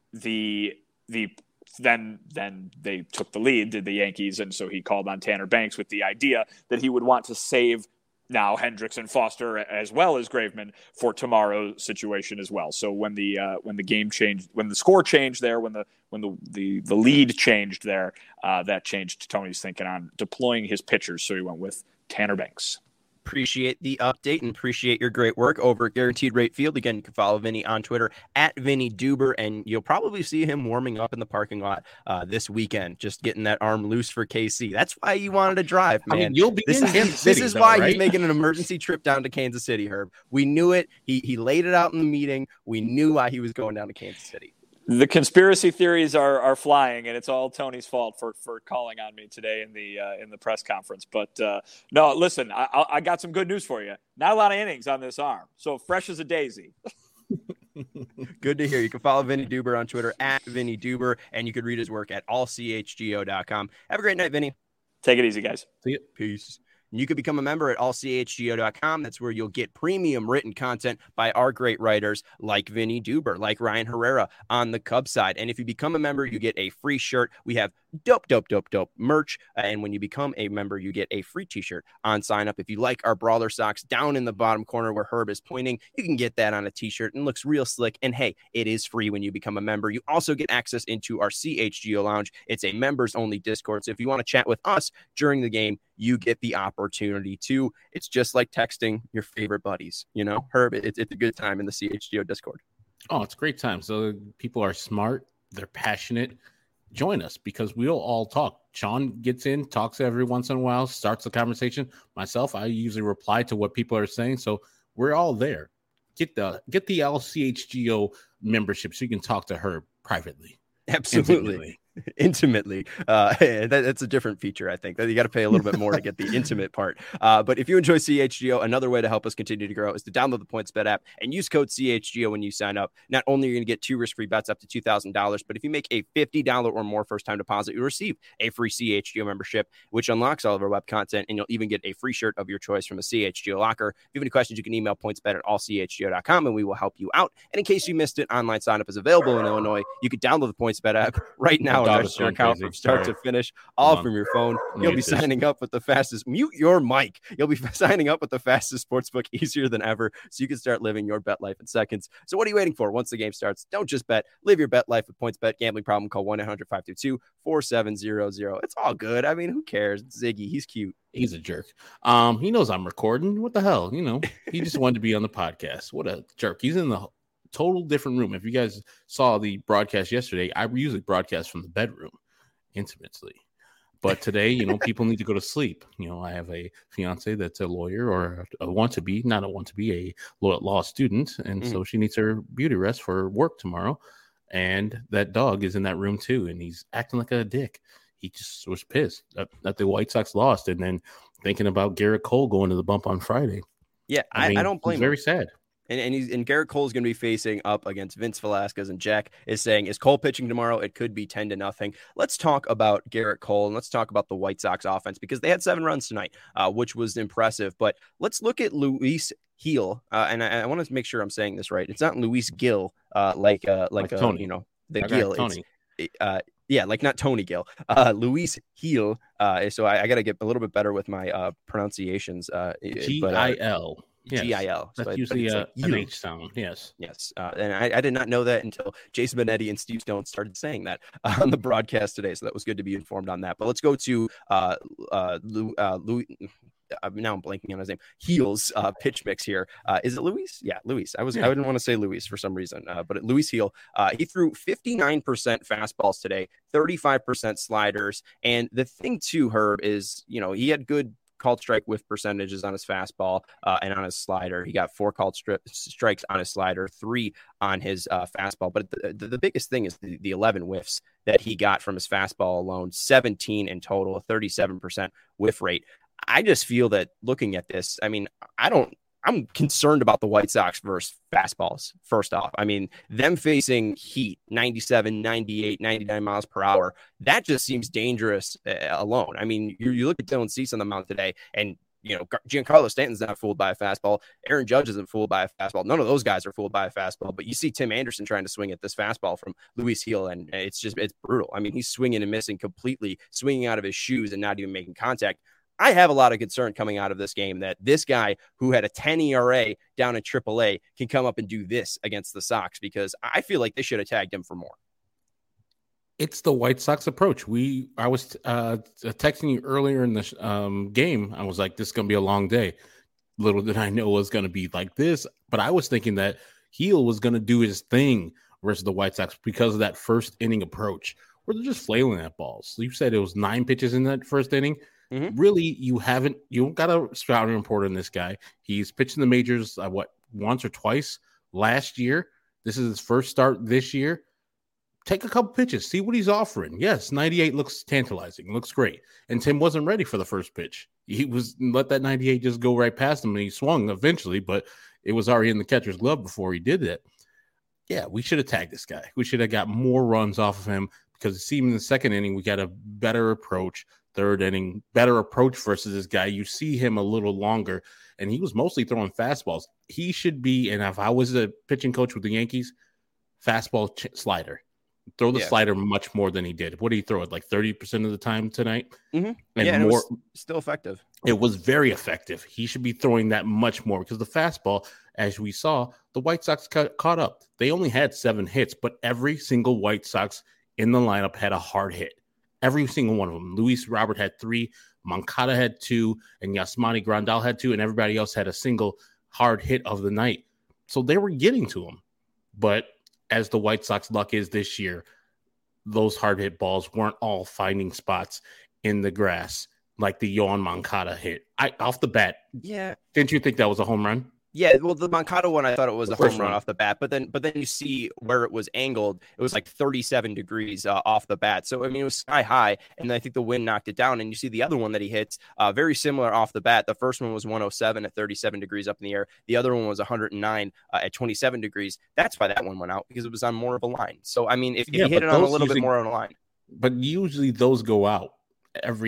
D: the the then then they took the lead, did the Yankees, and so he called on Tanner Banks with the idea that he would want to save – now Hendricks and Foster as well as Graveman for tomorrow's situation as well. So when the uh, when the game changed, when the score changed there, when the when the the, the lead changed there, uh, that changed Tony's thinking on deploying his pitchers. So he went with Tanner Banks.
A: Appreciate the update and appreciate your great work over at Guaranteed Rate Field. Again, you can follow Vinny on Twitter at Vinny Duber, and you'll probably see him warming up in the parking lot uh, this weekend, just getting that arm loose for K C. That's why you wanted to drive, man.
B: I mean, you'll be
A: this
B: in
A: is,
B: Kansas City,
A: This is
B: though,
A: why
B: right?
A: he's making an emergency trip down to Kansas City, Herb. We knew it. He he laid it out in the meeting. We knew why he was going down to Kansas City.
D: The conspiracy theories are are flying, and it's all Tony's fault for for calling on me today in the uh, in the press conference. But uh, no, listen, I, I got some good news for you. Not a lot of innings on this arm, so fresh as a daisy.
A: Good to hear. You can follow Vinny Duber on Twitter at Vinny Duber, and you can read his work at all c h g o dot com. Have a great night, Vinny.
D: Take it easy, guys.
B: See you.
A: Peace. You can become a member at all c h g o dot com. That's where you'll get premium written content by our great writers like Vinny Duber, like Ryan Herrera on the Cubs side. And if you become a member, you get a free shirt. We have dope, dope, dope, dope merch. And when you become a member, you get a free t-shirt on sign up. If you like our Brawler socks down in the bottom corner where Herb is pointing, you can get that on a t-shirt and looks real slick. And hey, it is free when you become a member. You also get access into our C H G O lounge. It's a members only Discord. So if you want to chat with us during the game, you get the opportunity to. It's just like texting your favorite buddies, you know, Herb, it's, it's a good time in the C H G O Discord.
B: Oh, it's a great time. So people are smart. They're passionate. Join us because we'll all talk. Sean gets in, talks every once in a while, starts the conversation. Myself, I usually reply to what people are saying. So we're all there. Get the get the L C H G O membership so you can talk to her privately.
A: Absolutely.
B: Intimately.
A: Intimately. Uh, that, that's a different feature, I think. That you got to pay a little bit more to get the intimate part. Uh, but if you enjoy C H G O, another way to help us continue to grow is to download the PointsBet app and use code C H G O when you sign up. Not only are you going to get two risk-free bets up to two thousand dollars, but if you make a fifty dollars or more first-time deposit, you'll receive a free C H G O membership, which unlocks all of our web content, and you'll even get a free shirt of your choice from a C H G O locker. If you have any questions, you can email pointsbet at all c h g o dot com, and we will help you out. And in case you missed it, online sign-up is available in Illinois. You can download the PointsBet app right now. register your account from start Sorry. to finish, all from your phone. You'll be this. signing up with the fastest. Mute your mic. You'll be signing up with the fastest sportsbook, easier than ever, so you can start living your bet life in seconds. So what are you waiting for? Once the game starts, don't just bet. Live your bet life with PointsBet. Gambling problem? Call one eight hundred five two two four seven zero zero. It's all good. I mean, who cares? It's Ziggy. He's cute.
B: He's a jerk. Um, he knows I'm recording. What the hell? You know, he just wanted to be on the podcast. What a jerk. He's in the total different room. If you guys saw the broadcast yesterday, I usually broadcast from the bedroom intimately. But today, you know, people need to go to sleep. You know, I have a fiance that's a lawyer or a want to be, not a want to be, a law student. And mm. so she needs her beauty rest for work tomorrow. And that dog is in that room too. And he's acting like a dick. He just was pissed that, that the White Sox lost, and then thinking about Garrett Cole going to the bump on Friday.
A: Yeah, I, I, mean, I don't blame
B: he's
A: him.
B: Very sad.
A: And and, he's, and Garrett Cole is going to be facing up against Vince Velasquez, and Jack is saying, is Cole pitching tomorrow? It could be ten to nothing. Let's talk about Garrett Cole, and let's talk about the White Sox offense, because they had seven runs tonight, uh, which was impressive. But let's look at Luis Gil, uh, and I, I want to make sure I'm saying this right. It's not Luis Gil, uh, like uh, like, like uh, you know the okay, Gil.
B: Tony.
A: It's, uh, Yeah, like not Tony Gill, uh, Luis Gil. Uh, so I, I got to get a little bit better with my uh, pronunciations. Uh,
B: G I L. Yes.
A: G I L.
B: That's
A: so
B: usually a,
A: like
B: an H sound. Yes.
A: Yes. Uh, and I, I did not know that until Jason Benetti and Steve Stone started saying that uh, on the broadcast today. So that was good to be informed on that. But let's go to uh, uh, Lou, uh, Louis. Uh, now I'm blanking on his name. Gil's uh, pitch mix here. Uh, is it Luis? Yeah, Luis. I was yeah. I didn't want to say Luis for some reason, uh, but Luis Gil. Uh, he threw fifty-nine percent fastballs today, thirty-five percent sliders, and the thing too, Herb, is you know he had good called strike whiff percentages on his fastball uh, and on his slider. He got four called stri- strikes on his slider, three on his uh, fastball. But the, the, the biggest thing is the, the eleven whiffs that he got from his fastball alone, seventeen in total, a thirty-seven percent whiff rate. I just feel that looking at this, I mean, I don't, I'm concerned about the White Sox versus fastballs. First off, I mean, them facing heat, ninety-seven, ninety-eight, ninety-nine miles per hour. That just seems dangerous uh, alone. I mean, you, you look at Dylan Cease on the mound today, and, you know, Giancarlo Stanton's not fooled by a fastball. Aaron Judge isn't fooled by a fastball. None of those guys are fooled by a fastball, but you see Tim Anderson trying to swing at this fastball from Luis Gil, and it's just, it's brutal. I mean, he's swinging and missing completely, swinging out of his shoes and not even making contact. I have a lot of concern coming out of this game that this guy who had a ten E R A down in triple A can come up and do this against the Sox, because I feel like they should have tagged him for more.
B: It's the White Sox approach. We, I was uh, texting you earlier in the um, game. I was like, this is going to be a long day. Little did I know it was going to be like this, but I was thinking that Gil was going to do his thing versus the White Sox because of that first inning approach where they're just flailing at balls. You said it was nine pitches in that first inning. Mm-hmm. Really, you haven't, you don't got a scouting report on this guy. He's pitched in the majors, uh, what, once or twice last year. This is his first start this year. Take a couple pitches, see what he's offering. Yes, ninety-eight looks tantalizing, looks great. And Tim wasn't ready for the first pitch. He was, let that ninety-eight just go right past him, and he swung eventually, but it was already in the catcher's glove before he did that. Yeah, we should have tagged this guy. We should have got more runs off of him, because it seemed in the second inning we got a better approach. Third inning, better approach versus this guy. You see him a little longer, and he was mostly throwing fastballs. He should be, and if I was a pitching coach with the Yankees, fastball ch- slider. Throw the yeah. slider much more than he did. What did he throw it like thirty percent of the time tonight?
A: Mm-hmm.
B: And
A: yeah, and
B: more,
A: it was still effective.
B: It was very effective. He should be throwing that much more, because the fastball, as we saw, the White Sox ca- caught up. They only had seven hits, but every single White Sox in the lineup had a hard hit. Every single one of them. Luis Robert had three, Moncada had two, and Yasmani Grandal had two, and everybody else had a single hard hit of the night. So they were getting to him. But as the White Sox luck is this year, those hard hit balls weren't all finding spots in the grass like the Yoan Moncada hit. I off the bat.
A: Yeah.
B: Didn't you think that was a home run?
A: Yeah, well, the Moncada one, I thought it was
B: the
A: a home run one. Off the bat, but then, but then you see where it was angled. It was like thirty-seven degrees uh, off the bat. So I mean, it was sky high, and I think the wind knocked it down. And you see the other one that he hits, uh, very similar off the bat. The first one was one oh seven at thirty-seven degrees up in the air. The other one was one hundred nine uh, at twenty-seven degrees. That's why that one went out, because it was on more of a line. So I mean, if, if yeah, you hit it on a little bit more on a line,
B: but usually those go out every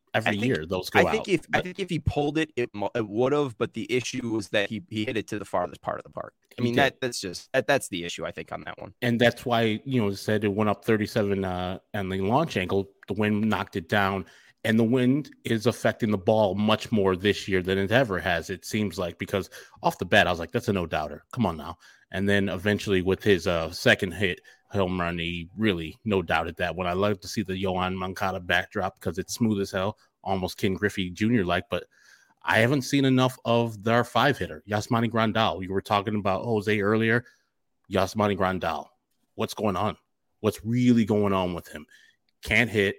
B: every
A: think,
B: year those go
A: I think
B: out.
A: if
B: But
A: I think if he pulled it, it, it would have. But the issue was that he he hit it to the farthest part of the park. I mean, that that's just that, that's the issue, I think, on that one.
B: And that's why, you know, it said it went up thirty-seven uh, and the launch angle. The wind knocked it down, and the wind is affecting the ball much more this year than it ever has. It seems like, because off the bat, I was like, that's a no doubter. Come on now. And then eventually with his uh, second hit home run, he really no doubted that one. I love to see the Yoan Moncada backdrop because it's smooth as hell, almost Ken Griffey Junior like, but I haven't seen enough of their five hitter, Yasmani Grandal. You were talking about Jose earlier. Yasmani Grandal. What's going on? What's really going on with him? Can't hit,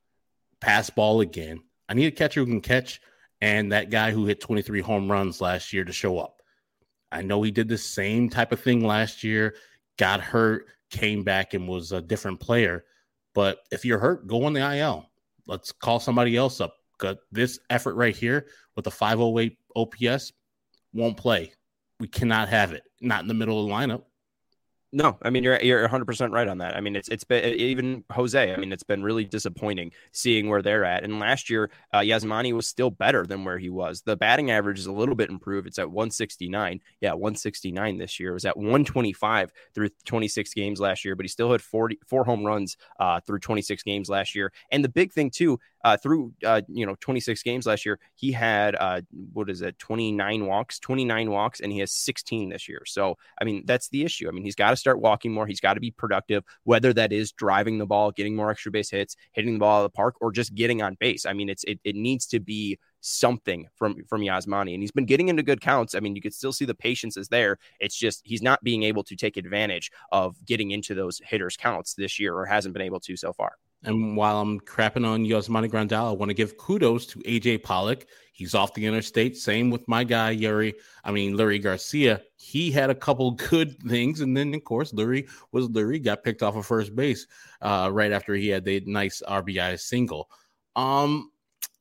B: pass ball again. I need a catcher who can catch, and that guy who hit twenty-three home runs last year to show up. I know he did the same type of thing last year, got hurt, came back and was a different player. But if you're hurt, go on the I L. Let's call somebody else up. Because this effort right here with the five oh eight O P S won't play. We cannot have it. Not in the middle of the lineup.
A: No, I mean, you're you're one hundred percent right on that. I mean, it's it's been even Jose. I mean, it's been really disappointing seeing where they're at. And last year, uh, Yasmani was still better than where he was. The batting average is a little bit improved. It's at one sixty-nine. Yeah, one sixty-nine this year. It was at one twenty-five through twenty-six games last year, but he still had forty, four home runs uh, through twenty-six games last year. And the big thing too, uh, through uh, you know twenty-six games last year, he had uh, what is it, twenty-nine walks, twenty-nine walks, and he has sixteen this year. So I mean, that's the issue. I mean, he's got to start walking more. He's got to be productive, whether that is driving the ball, getting more extra base hits, hitting the ball out of the park, or just getting on base. I mean, it's it, it needs to be something from from Yasmani, and he's been getting into good counts. I mean, you could still see the patience is there. It's just he's not being able to take advantage of getting into those hitters counts this year, or hasn't been able to so far.
B: And while I'm crapping on Yasmani Grandal, I want to give kudos to A J Pollock. He's off the interstate. Same with my guy, Yuri. I mean, Lurie Garcia. He had a couple good things. And then, of course, Lurie was Lurie, got picked off of first base uh, right after he had the nice R B I single. Um,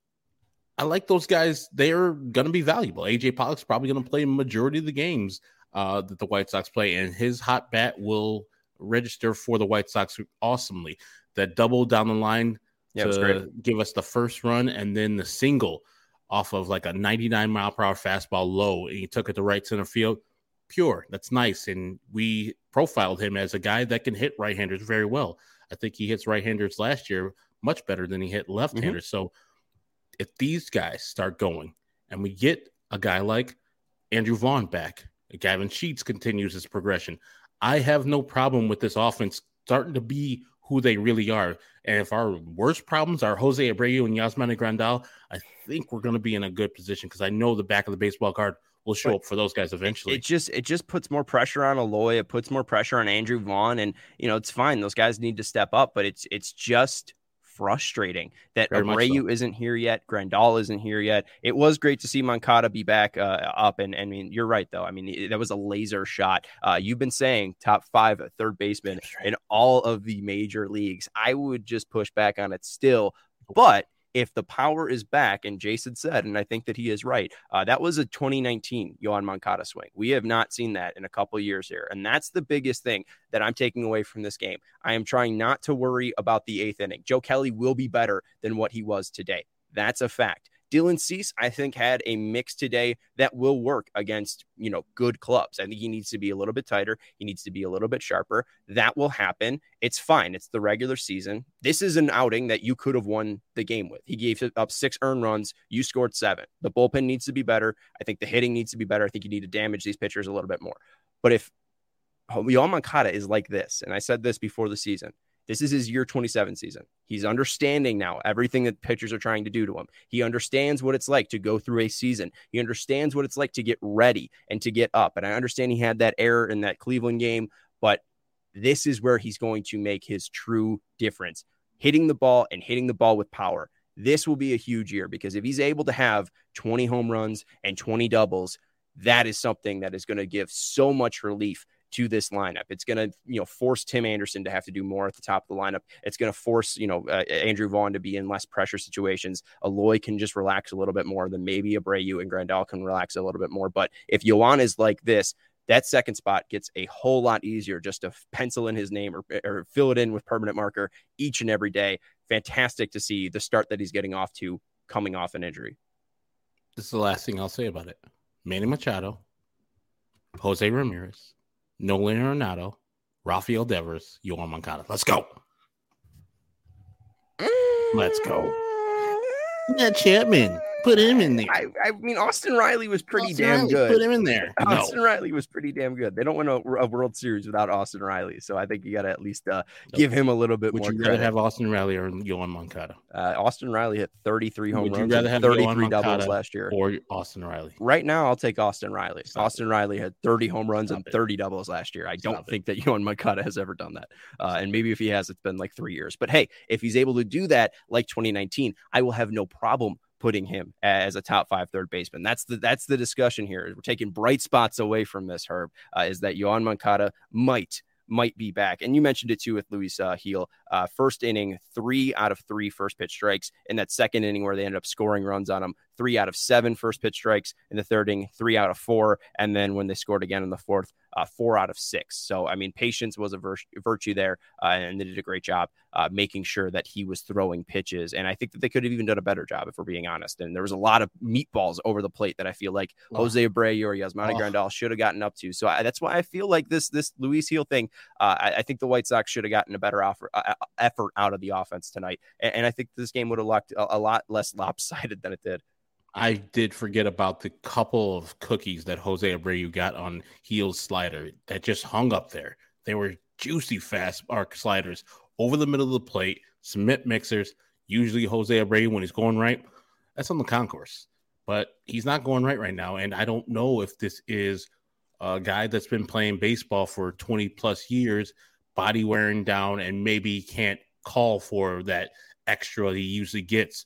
B: I like those guys. They're going to be valuable. A J Pollock's probably going to play a majority of the games uh, that the White Sox play, and his hot bat will register for the White Sox awesomely. That double down the line
A: yeah,
B: to give us the first run, and then the single off of like a ninety-nine mile per hour fastball low, and he took it to right center field. Pure. That's nice. And we profiled him as a guy that can hit right-handers very well. I think he hits right-handers last year much better than he hit left-handers. Mm-hmm. So if these guys start going and we get a guy like Andrew Vaughn back, Gavin Sheets continues his progression, I have no problem with this offense starting to be who they really are. And if our worst problems are Jose Abreu and Yasmani Grandal, I think we're going to be in a good position, because I know the back of the baseball card will show but up for those guys eventually.
A: It just it just puts more pressure on Eloy. It puts more pressure on Andrew Vaughn, and you know it's fine. Those guys need to step up, but it's it's just frustrating that Very Abreu so. isn't here yet. Grandal isn't here yet. It was great to see Moncada be back uh, up. And, and I mean, you're right, though. I mean, that was a laser shot. Uh, you've been saying top five third baseman right. in all of the major leagues. I would just push back on it still. But if the power is back, and Jason said, and I think that he is right, uh, that was a twenty nineteen Yoan Moncada swing. We have not seen that in a couple of years here. And that's the biggest thing that I'm taking away from this game. I am trying not to worry about the eighth inning. Joe Kelly will be better than what he was today. That's a fact. Dylan Cease, I think, had a mix today that will work against, you know, good clubs. I think he needs to be a little bit tighter. He needs to be a little bit sharper. That will happen. It's fine. It's the regular season. This is an outing that you could have won the game with. He gave up six earned runs. You scored seven. The bullpen needs to be better. I think the hitting needs to be better. I think you need to damage these pitchers a little bit more. But if Yoan Moncada is like this, and I said this before the season, this is his year twenty-seven season. He's understanding now everything that pitchers are trying to do to him. He understands what it's like to go through a season. He understands what it's like to get ready and to get up. And I understand he had that error in that Cleveland game, but this is where he's going to make his true difference. Hitting the ball and hitting the ball with power. This will be a huge year, because if he's able to have twenty home runs and twenty doubles, that is something that is going to give so much relief to this lineup. It's going to, you know, force Tim Anderson to have to do more at the top of the lineup. It's going to force, you know, uh, Andrew Vaughn to be in less pressure situations. Eloy can just relax a little bit more. Then maybe Abreu and Grandal can relax a little bit more. But if Yoan is like this, that second spot gets a whole lot easier just to pencil in his name or, or fill it in with permanent marker each and every day. Fantastic to see the start that he's getting off to coming off an injury.
B: This is the last thing I'll say about it. Manny Machado, Jose Ramirez, Nolan Arenado, Rafael Devers, Yoan Moncada. Let's go. Let's go. Yeah, Chapman. Put him in there.
A: I, I mean, Austin Riley was pretty
B: Austin
A: damn
B: Riley,
A: good.
B: Put him in there.
A: Austin
B: no.
A: Riley was pretty damn good. They don't win a, a World Series without Austin Riley, so I think you got to at least uh, give him a little bit
B: Would
A: more.
B: Would you
A: credit.
B: rather have Austin Riley or Yoan Moncada?
A: Uh, Austin Riley hit thirty-three home
B: Would
A: runs,
B: you rather
A: and
B: have
A: thirty-three
B: Yoan
A: doubles
B: Moncada
A: last year,
B: or Austin Riley?
A: Right now, I'll take Austin Riley.
B: Stop
A: Austin
B: it.
A: Riley had thirty home runs
B: Stop
A: and
B: it.
A: thirty doubles last year. I
B: Stop
A: don't
B: it.
A: think that Yoan Moncada has ever done that. Uh, and maybe if he has, it's been like three years. But hey, if he's able to do that like twenty nineteen, I will have no problem putting him as a top five third baseman. That's the that's the discussion here. We're taking bright spots away from this, Herb, uh, is that Yoan Moncada might might be back. And you mentioned it too with Luis uh, Gil. Uh, first inning, three out of three first pitch strikes. In that second inning where they ended up scoring runs on him, three out of seven first pitch strikes. In the third inning, three out of four. And then when they scored again in the fourth, uh, four out of six. So, I mean, patience was a vir- virtue there, uh, and they did a great job uh, making sure that he was throwing pitches. And I think that they could have even done a better job, if we're being honest. And there was a lot of meatballs over the plate that I feel like oh. Jose Abreu or Yasmani oh. Grandal should have gotten up to. So I, that's why I feel like this this Luis Gil thing, uh, I, I think the White Sox should have gotten a better offer, uh, effort out of the offense tonight. And, and I think this game would have looked a, a lot less lopsided than it did.
B: I did forget about the couple of cookies that Jose Abreu got on Gil's slider that just hung up there. They were juicy fast arc sliders over the middle of the plate, cement mixers. Usually Jose Abreu, when he's going right, that's on the concourse. But he's not going right right now. And I don't know if this is a guy that's been playing baseball for twenty plus years, body wearing down, and maybe can't call for that extra he usually gets.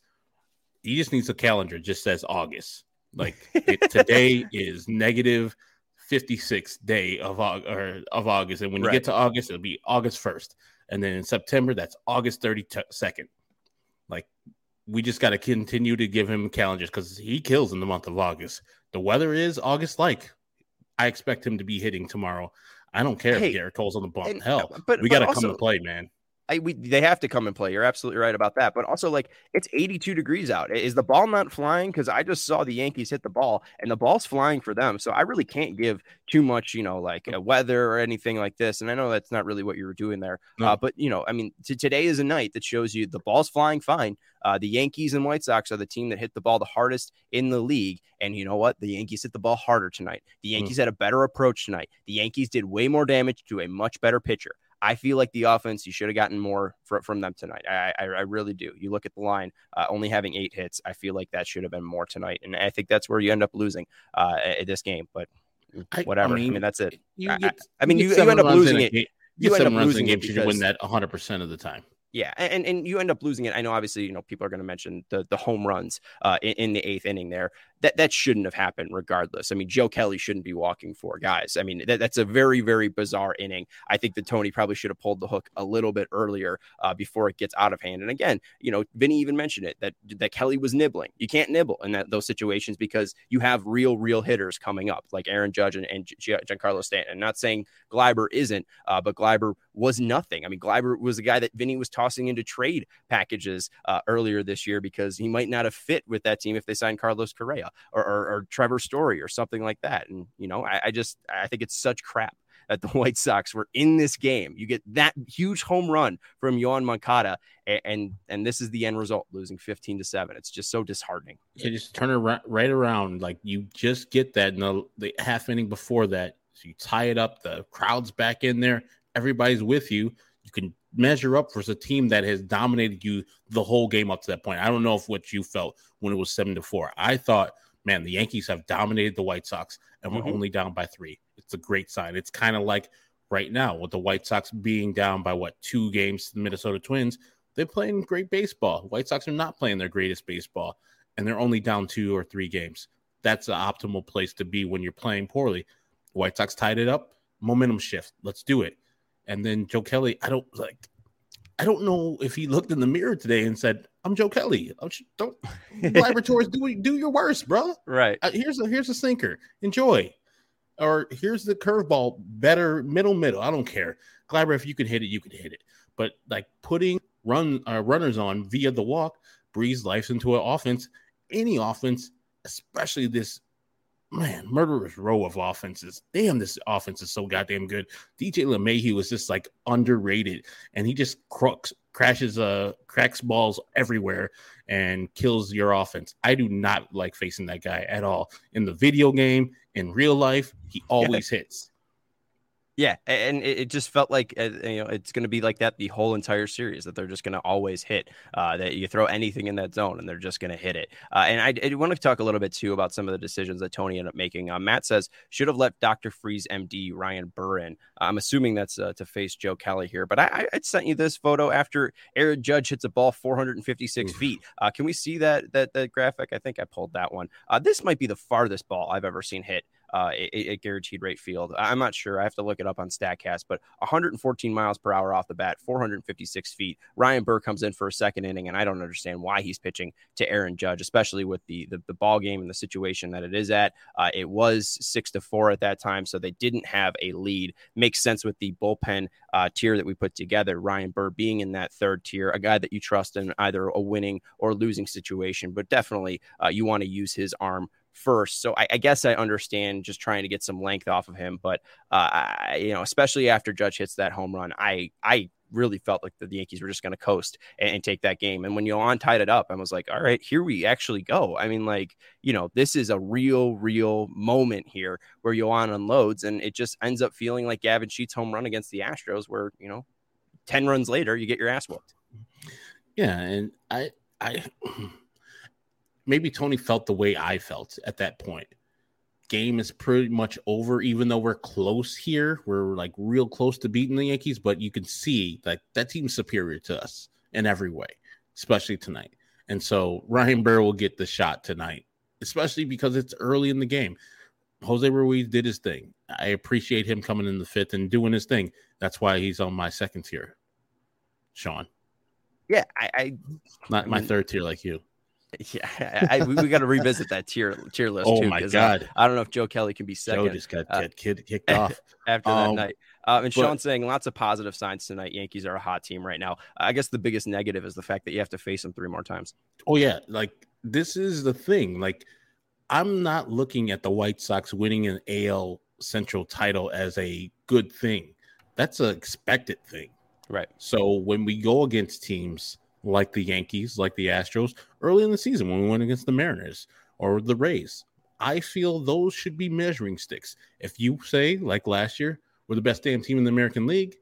B: He just needs a calendar. Just says August. Like it, today is negative fifty-sixth day of or of August, and when you right. get to August, it'll be August first, and then in September, that's August thirty-second. Like we just got to continue to give him calendars because he kills in the month of August. The weather is August like. I expect him to be hitting tomorrow. I don't care hey, if Garrett Cole's on the bump. And, Hell, but we got to come and play, man.
A: I, we, they have to come and play. You're absolutely right about that. But also, like, it's eighty-two degrees out. Is the ball not flying? Because I just saw the Yankees hit the ball, and the ball's flying for them. So I really can't give too much, you know, like uh, weather or anything like this. And I know that's not really what you were doing there. No. Uh, but, you know, I mean, t- today is a night that shows you the ball's flying fine. Uh, the Yankees and White Sox are the team that hit the ball the hardest in the league. And you know what? The Yankees hit the ball harder tonight. The Yankees mm. had a better approach tonight. The Yankees did way more damage to a much better pitcher. I feel like the offense, you should have gotten more fr- from them tonight. I, I I really do. You look at the line, uh, only having eight hits. I feel like that should have been more tonight. And I think that's where you end up losing uh, at this game. But whatever. I mean, I mean that's it.
B: You
A: I,
B: get,
A: I mean, you,
B: you,
A: you end up losing it.
B: You,
A: you
B: end
A: up
B: losing
A: it
B: because you win that one hundred percent of the time.
A: Yeah, and and you end up losing it. I know, obviously, you know, people are going to mention the the home runs uh, in, in the eighth inning there. That that shouldn't have happened regardless. I mean, Joe Kelly shouldn't be walking four guys. I mean, that, that's a very, very bizarre inning. I think that Tony probably should have pulled the hook a little bit earlier uh, before it gets out of hand. And again, you know, Vinny even mentioned it, that that Kelly was nibbling. You can't nibble in that, those situations because you have real, real hitters coming up like Aaron Judge and, and Giancarlo Stanton. I'm not saying Gleiber isn't, uh, but Gleiber was nothing. I mean, Gleiber was the guy that Vinny was tossing into trade packages uh, earlier this year because he might not have fit with that team if they signed Carlos Correa or, or, or Trevor Story or something like that. And, you know, I, I just, I think it's such crap that the White Sox were in this game. You get that huge home run from Yoan Moncada, and, and, and this is the end result, losing fifteen to seven. It's just so disheartening.
B: You just turn it right, right around. Like you just get that in the, the half inning before that. So you tie it up, the crowd's back in there. Everybody's with you. You can measure up versus a team that has dominated you the whole game up to that point. I don't know if what you felt when it was seven to four. I thought, man, the Yankees have dominated the White Sox and we're mm-hmm. only down by three. It's a great sign. It's kind of like right now with the White Sox being down by what, two games to the Minnesota Twins. They're playing great baseball. The White Sox are not playing their greatest baseball and they're only down two or three games. That's the optimal place to be when you're playing poorly. The White Sox tied it up. Momentum shift. Let's do it. And then Joe Kelly, I don't like, I don't know if he looked in the mirror today and said, I'm Joe Kelly. I'm, don't laboratories do do your worst, bro.
A: Right.
B: Uh, here's a here's a sinker. Enjoy. Or here's the curveball. Better middle middle. I don't care. Gleiber, if you can hit it, you can hit it. But like putting run uh, runners on via the walk, breathes life into an offense, any offense, especially this, man, murderous row of offenses. Damn, this offense is so goddamn good. D J LeMahieu was just like underrated, and he just crooks, crashes, uh, cracks balls everywhere and kills your offense. I do not like facing that guy at all. In the video game, in real life, he always yeah. hits.
A: Yeah, and it just felt like uh, you know it's going to be like that the whole entire series, that they're just going to always hit, uh, that you throw anything in that zone and they're just going to hit it. Uh, and I, I want to talk a little bit too about some of the decisions that Tony ended up making. Uh, Matt says should have let Doctor Freeze M D Ryan Burr in. I'm assuming that's uh, to face Joe Kelly here, but I, I sent you this photo after Aaron Judge hits a ball four hundred fifty-six Oof. feet. Uh, can we see that that that graphic? I think I pulled that one. Uh, this might be the farthest ball I've ever seen hit Uh, a, a guaranteed rate field. I'm not sure. I have to look it up on StatCast, but one hundred fourteen miles per hour off the bat, four hundred fifty-six feet. Ryan Burr comes in for a second inning, and I don't understand why he's pitching to Aaron Judge, especially with the the, the ball game and the situation that it is at. Uh, it was six to four at that time, so they didn't have a lead. Makes sense with the bullpen uh, tier that we put together. Ryan Burr being in that third tier, a guy that you trust in either a winning or losing situation, but definitely uh, you want to use his arm first. So I, I guess I understand just trying to get some length off of him, but uh, I, you know, especially after Judge hits that home run, I I really felt like the, the Yankees were just going to coast and, and take that game. And when Yohan tied it up, I was like, all right, here we actually go. I mean, like, you know, this is a real, real moment here where Yohan unloads, and it just ends up feeling like Gavin Sheets' home run against the Astros, where, you know, ten runs later, you get your ass whooped.
B: Yeah, and I I. Maybe Tony felt the way I felt at that point. Game is pretty much over, even though we're close here. We're like real close to beating the Yankees, but you can see that that team's superior to us in every way, especially tonight. And so Ryan Burr will get the shot tonight, especially because it's early in the game. Jose Ruiz did his thing. I appreciate him coming in the fifth and doing his thing. That's why he's on my second tier, Sean.
A: Yeah, I, I
B: not
A: I
B: my
A: mean,
B: third tier like you.
A: Yeah, I, we, we got to revisit that tier tier list.
B: Oh
A: too,
B: my god!
A: Uh, I don't know if Joe Kelly can be second.
B: Joe just got uh, kid, kicked off
A: after that
B: um,
A: night. Uh, and
B: but,
A: Sean saying lots of positive signs tonight. Yankees are a hot team right now. I guess the biggest negative is the fact that you have to face them three more times.
B: Oh yeah, like this is the thing. Like I'm not looking at the White Sox winning an A L Central title as a good thing. That's an expected thing,
A: right?
B: So when we go against teams like the Yankees, like the Astros, early in the season when we went against the Mariners or the Rays, I feel those should be measuring sticks. If you say, like last year, we're the best damn team in the American League,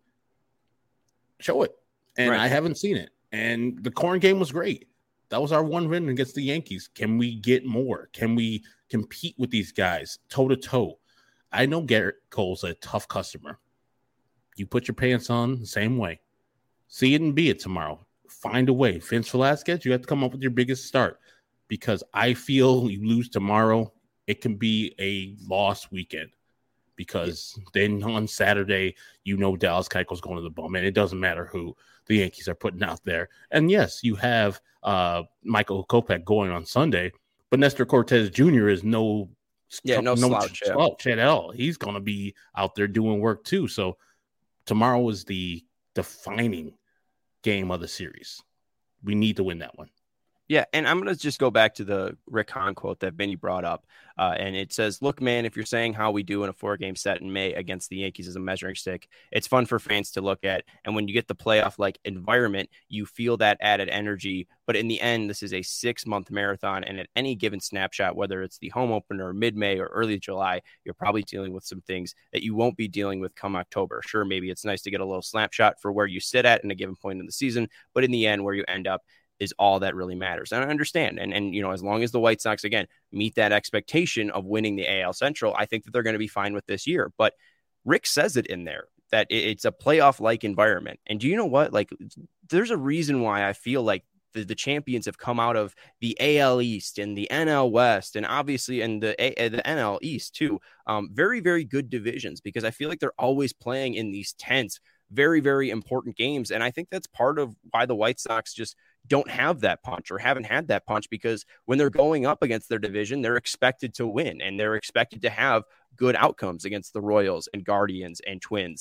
B: show it. And right. I haven't seen it. And the Corn game was great. That was our one win against the Yankees. Can we get more? Can we compete with these guys toe-to-toe? I know Garrett Cole's a tough customer. You put your pants on the same way. See it and be it tomorrow. Find a way. Vince Velasquez, you have to come up with your biggest start, because I feel you lose tomorrow, it can be a lost weekend, because then on Saturday, you know Dallas Keuchel's going to the bum, and it doesn't matter who the Yankees are putting out there. And yes, you have uh, Michael Kopech going on Sunday, but Nestor Cortez Junior is no,
A: yeah, no, no slouch,
B: slouch at all. He's going to be out there doing work too. So tomorrow is the defining game of the series. We need to win that one.
A: Yeah, and I'm going to just go back to the Rick Hahn quote that Vinny brought up. Uh, and it says, look, man, if you're saying how we do in a four-game set in May against the Yankees as a measuring stick, it's fun for fans to look at. And when you get the playoff-like environment, you feel that added energy. But in the end, this is a six-month marathon. And at any given snapshot, whether it's the home opener, mid-May, or early July, you're probably dealing with some things that you won't be dealing with come October. Sure, maybe it's nice to get a little snapshot for where you sit at in a given point in the season. But in the end, where you end up is all that really matters. And I understand. And, and, you know, as long as the White Sox, again, meet that expectation of winning the A L Central, I think that they're going to be fine with this year. But Rick says it in there that it's a playoff-like environment. And do you know what? Like, there's a reason why I feel like the, the champions have come out of the A L East and the N L West, and obviously, and the, A, the N L East too. Um, very, very good divisions, because I feel like they're always playing in these tense, very, very important games. And I think that's part of why the White Sox just don't have that punch, or haven't had that punch, because when they're going up against their division, they're expected to win, and they're expected to have good outcomes against the Royals and Guardians and Twins.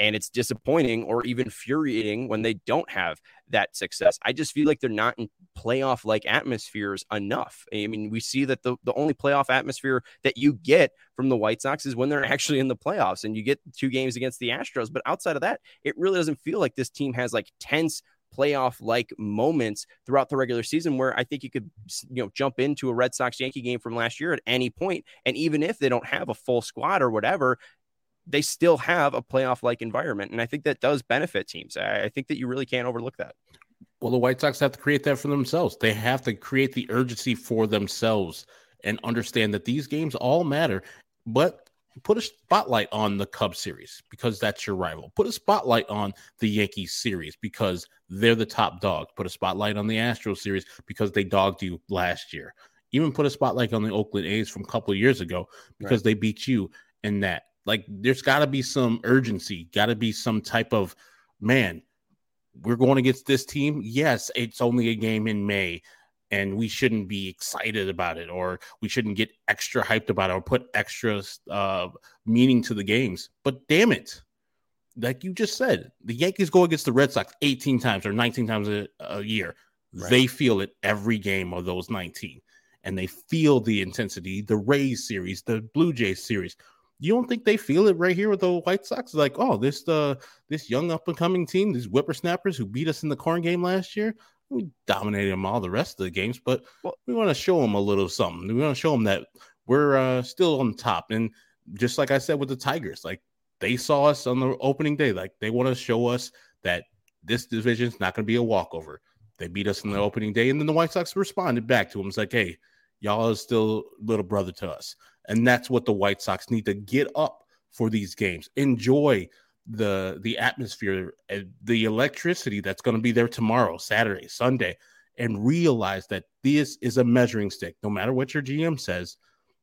A: And it's disappointing or even infuriating when they don't have that success. I just feel like they're not in playoff like atmospheres enough. I mean, we see that the, the only playoff atmosphere that you get from the White Sox is when they're actually in the playoffs and you get two games against the Astros. But outside of that, it really doesn't feel like this team has like tense playoff like moments throughout the regular season where I think you could, you know, jump into a Red Sox Yankee game from last year at any point. And even if they don't have a full squad or whatever, they still have a playoff like environment. And I think that does benefit teams. I, I think that you really can't overlook that.
B: Well, the White Sox have to create that for themselves. They have to create the urgency for themselves and understand that these games all matter, but put a spotlight on the Cubs series because that's your rival. Put a spotlight on the Yankees series because they're the top dog. Put a spotlight on the Astros series because they dogged you last year. Even put a spotlight on the Oakland A's from a couple of years ago because right. they beat you in that. Like, there's got to be some urgency, got to be some type of, man, we're going against this team. Yes, it's only a game in May, and we shouldn't be excited about it, or we shouldn't get extra hyped about it or put extra uh, meaning to the games. But damn it, like you just said, the Yankees go against the Red Sox eighteen times or nineteen times a, a year. Right. They feel it every game of those nineteen, and they feel the intensity. The Rays series, the Blue Jays series. You don't think they feel it right here with the White Sox? Like, oh, this uh, this young up-and-coming team, these whippersnappers who beat us in the corn game last year, we dominated them all the rest of the games, but well, we want to show them a little something. We want to show them that we're uh, still on top. And just like I said with the Tigers, like they saw us on the opening day. Like they want to show us that this division is not going to be a walkover. They beat us on the opening day, and then the White Sox responded back to them. It's like, hey, y'all are still little brother to us. And that's what the White Sox need to get up for these games. Enjoy the the atmosphere, the electricity that's going to be there tomorrow, Saturday, Sunday, and realize that this is a measuring stick. No matter what your G M says,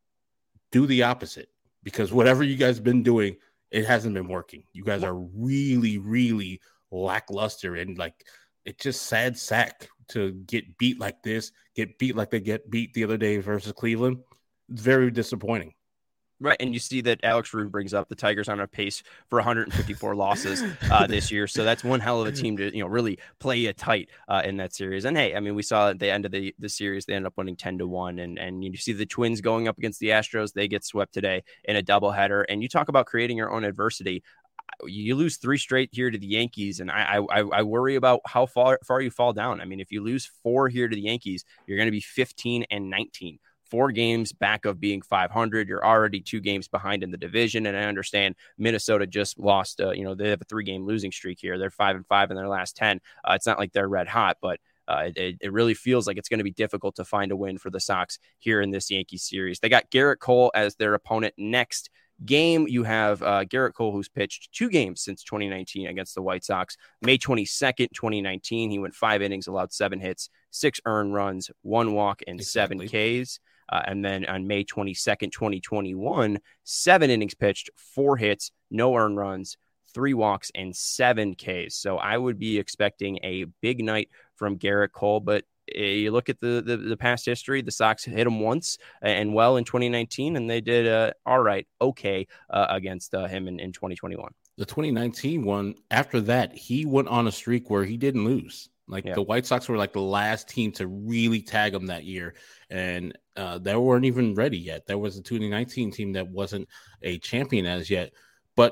B: do the opposite, because whatever you guys have been doing, it hasn't been working. You guys are really, really lackluster, and like it's just sad sack to get beat like this, get beat like they get beat the other day versus Cleveland. Very disappointing.
A: Right, and you see that Alex Rude brings up the Tigers on a pace for one hundred fifty-four losses uh, this year, so that's one hell of a team to you know really play it tight uh, in that series. And hey, I mean, we saw at the end of the, the series they ended up winning ten to one, and and you see the Twins going up against the Astros. They get swept today in a doubleheader, and you talk about creating your own adversity. You lose three straight here to the Yankees, and I I, I worry about how far far you fall down. I mean, if you lose four here to the Yankees, you're going to be fifteen and nineteen. Four games back of being five hundred. You're already two games behind in the division. And I understand Minnesota just lost, uh, you know, they have a three game losing streak here. They're five and five in their last ten. Uh, it's not like they're red hot, but uh, it, it really feels like it's going to be difficult to find a win for the Sox here in this Yankees series. They got Garrett Cole as their opponent next game. You have uh, Garrett Cole, who's pitched two games since twenty nineteen against the White Sox. May twenty-second, twenty nineteen, he went five innings, allowed seven hits, six earned runs, one walk, and exactly. seven Ks. Uh, and then on May twenty-second, twenty twenty-one, seven innings pitched, four hits, no earned runs, three walks, and seven Ks. So I would be expecting a big night from Garrett Cole. But uh, you look at the, the the past history, the Sox hit him once and well in twenty nineteen, and they did uh, all right, okay, uh, against uh, him in, in twenty twenty-one.
B: The twenty nineteen one, after that, he went on a streak where he didn't lose. Like yeah. the White Sox were like the last team to really tag him that year. And uh, they weren't even ready yet. There was a twenty nineteen team that wasn't a champion as yet. But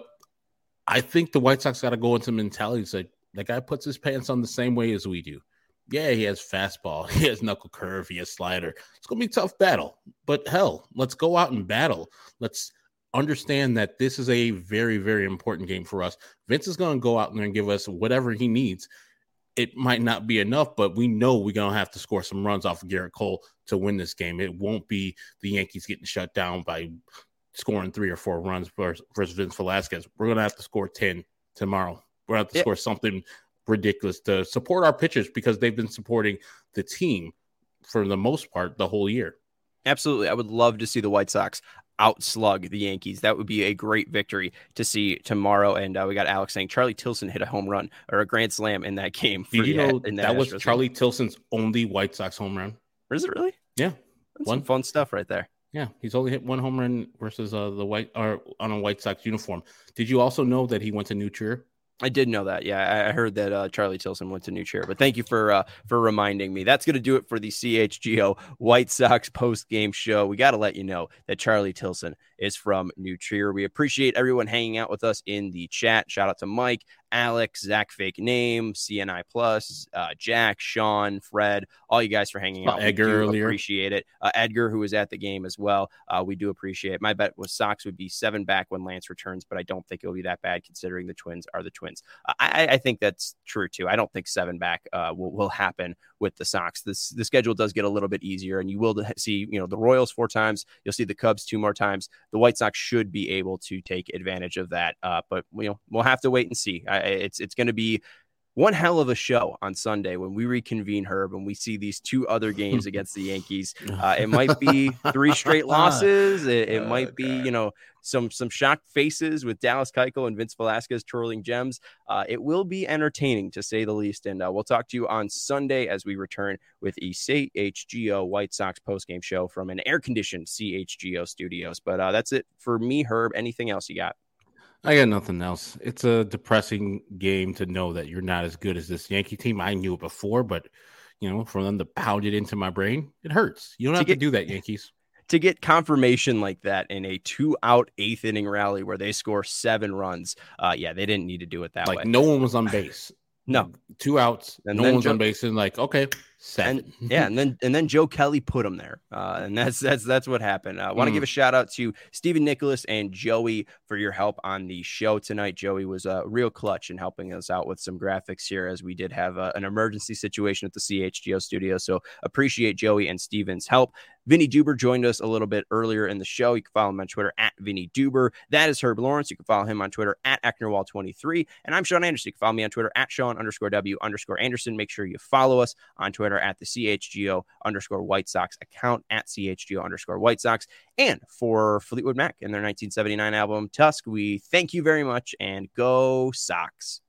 B: I think the White Sox got to go into mentality. It's like, that guy puts his pants on the same way as we do. Yeah, he has fastball. He has knuckle curve. He has slider. It's going to be a tough battle. But hell, let's go out and battle. Let's understand that this is a very, very important game for us. Vince is going to go out there and give us whatever he needs. It might not be enough, but we know we're going to have to score some runs off of Garrett Cole to win this game. It won't be the Yankees getting shut down by scoring three or four runs versus Vince Velasquez. We're going to have to score ten tomorrow. We're going to have to yeah. score something ridiculous to support our pitchers because they've been supporting the team for the most part the whole year.
A: Absolutely. I would love to see the White Sox outslug the Yankees. That would be a great victory to see tomorrow. And uh, we got Alex saying Charlie Tilson hit a home run or a grand slam in that game. For
B: Did you know
A: in
B: that, that was Charlie game. Tilson's only White Sox home run?
A: Is it really?
B: Yeah.
A: That's some fun stuff right there.
B: Yeah, he's only hit one home run versus uh, the White or on a White Sox uniform. Did you also know that he went to New Trier?
A: I did know that. Yeah, I heard that uh, Charlie Tilson went to New Trier. But thank you for uh, for reminding me. That's going to do it for the C H G O White Sox post game show. We got to let you know that Charlie Tilson is from New Trier. We appreciate everyone hanging out with us in the chat. Shout out to Mike, Alex, Zach Fake Name, C N I Plus, uh, Jack, Sean, Fred, all you guys for hanging out.
B: Edgar
A: we do
B: earlier.
A: Appreciate it. Uh, Edgar, who was at the game as well. Uh, we do appreciate it. My bet was Sox would be seven back when Lance returns, but I don't think it'll be that bad considering the Twins are the Twins. Uh, I, I think that's true too. I don't think seven back uh, will, will happen with the Sox. This the schedule does get a little bit easier, and you will see, you know, the Royals four times. You'll see the Cubs two more times. The White Sox should be able to take advantage of that, uh, but you know we'll have to wait and see. I, it's it's going to be one hell of a show on Sunday when we reconvene, Herb, and we see these two other games against the Yankees. Uh, it might be three straight losses. It, it oh, might be, God. you know, some some shocked faces with Dallas Keuchel and Vince Velasquez twirling gems. Uh, it will be entertaining, to say the least. And uh, we'll talk to you on Sunday as we return with a C H G O White Sox postgame show from an air-conditioned C H G O studios. But uh, that's it for me, Herb. Anything else you got?
B: I got nothing else. It's a depressing game to know that you're not as good as this Yankee team. I knew it before, but, you know, for them to pound it into my brain, it hurts. You don't to have get, to do that, Yankees.
A: To get confirmation like that in a two-out eighth inning rally where they score seven runs, uh, yeah, they didn't need to do it that
B: like
A: way.
B: Like, no one was on base.
A: No.
B: Two outs, and no one's Joe, on base, and like, okay, seven.
A: And, yeah, and then and then Joe Kelly put him there, uh, and that's that's that's what happened. I uh, want to mm. give a shout out to Stephen Nicholas and Joey for your help on the show tonight. Joey was a uh, real clutch in helping us out with some graphics here, as we did have uh, an emergency situation at the C H G O studio. So appreciate Joey and Stephen's help. Vinny Duber joined us a little bit earlier in the show. You can follow him on Twitter at Vinny Duber. That is Herb Lawrence. You can follow him on Twitter at Ecknerwall twenty-three. And I'm Sean Anderson. You can follow me on Twitter at Sean underscore W underscore Anderson. Make sure you follow us on Twitter at the C H G O underscore White Sox account at C H G O underscore White Sox. And for Fleetwood Mac and their nineteen seventy-nine album Tusk, we thank you very much and go Sox.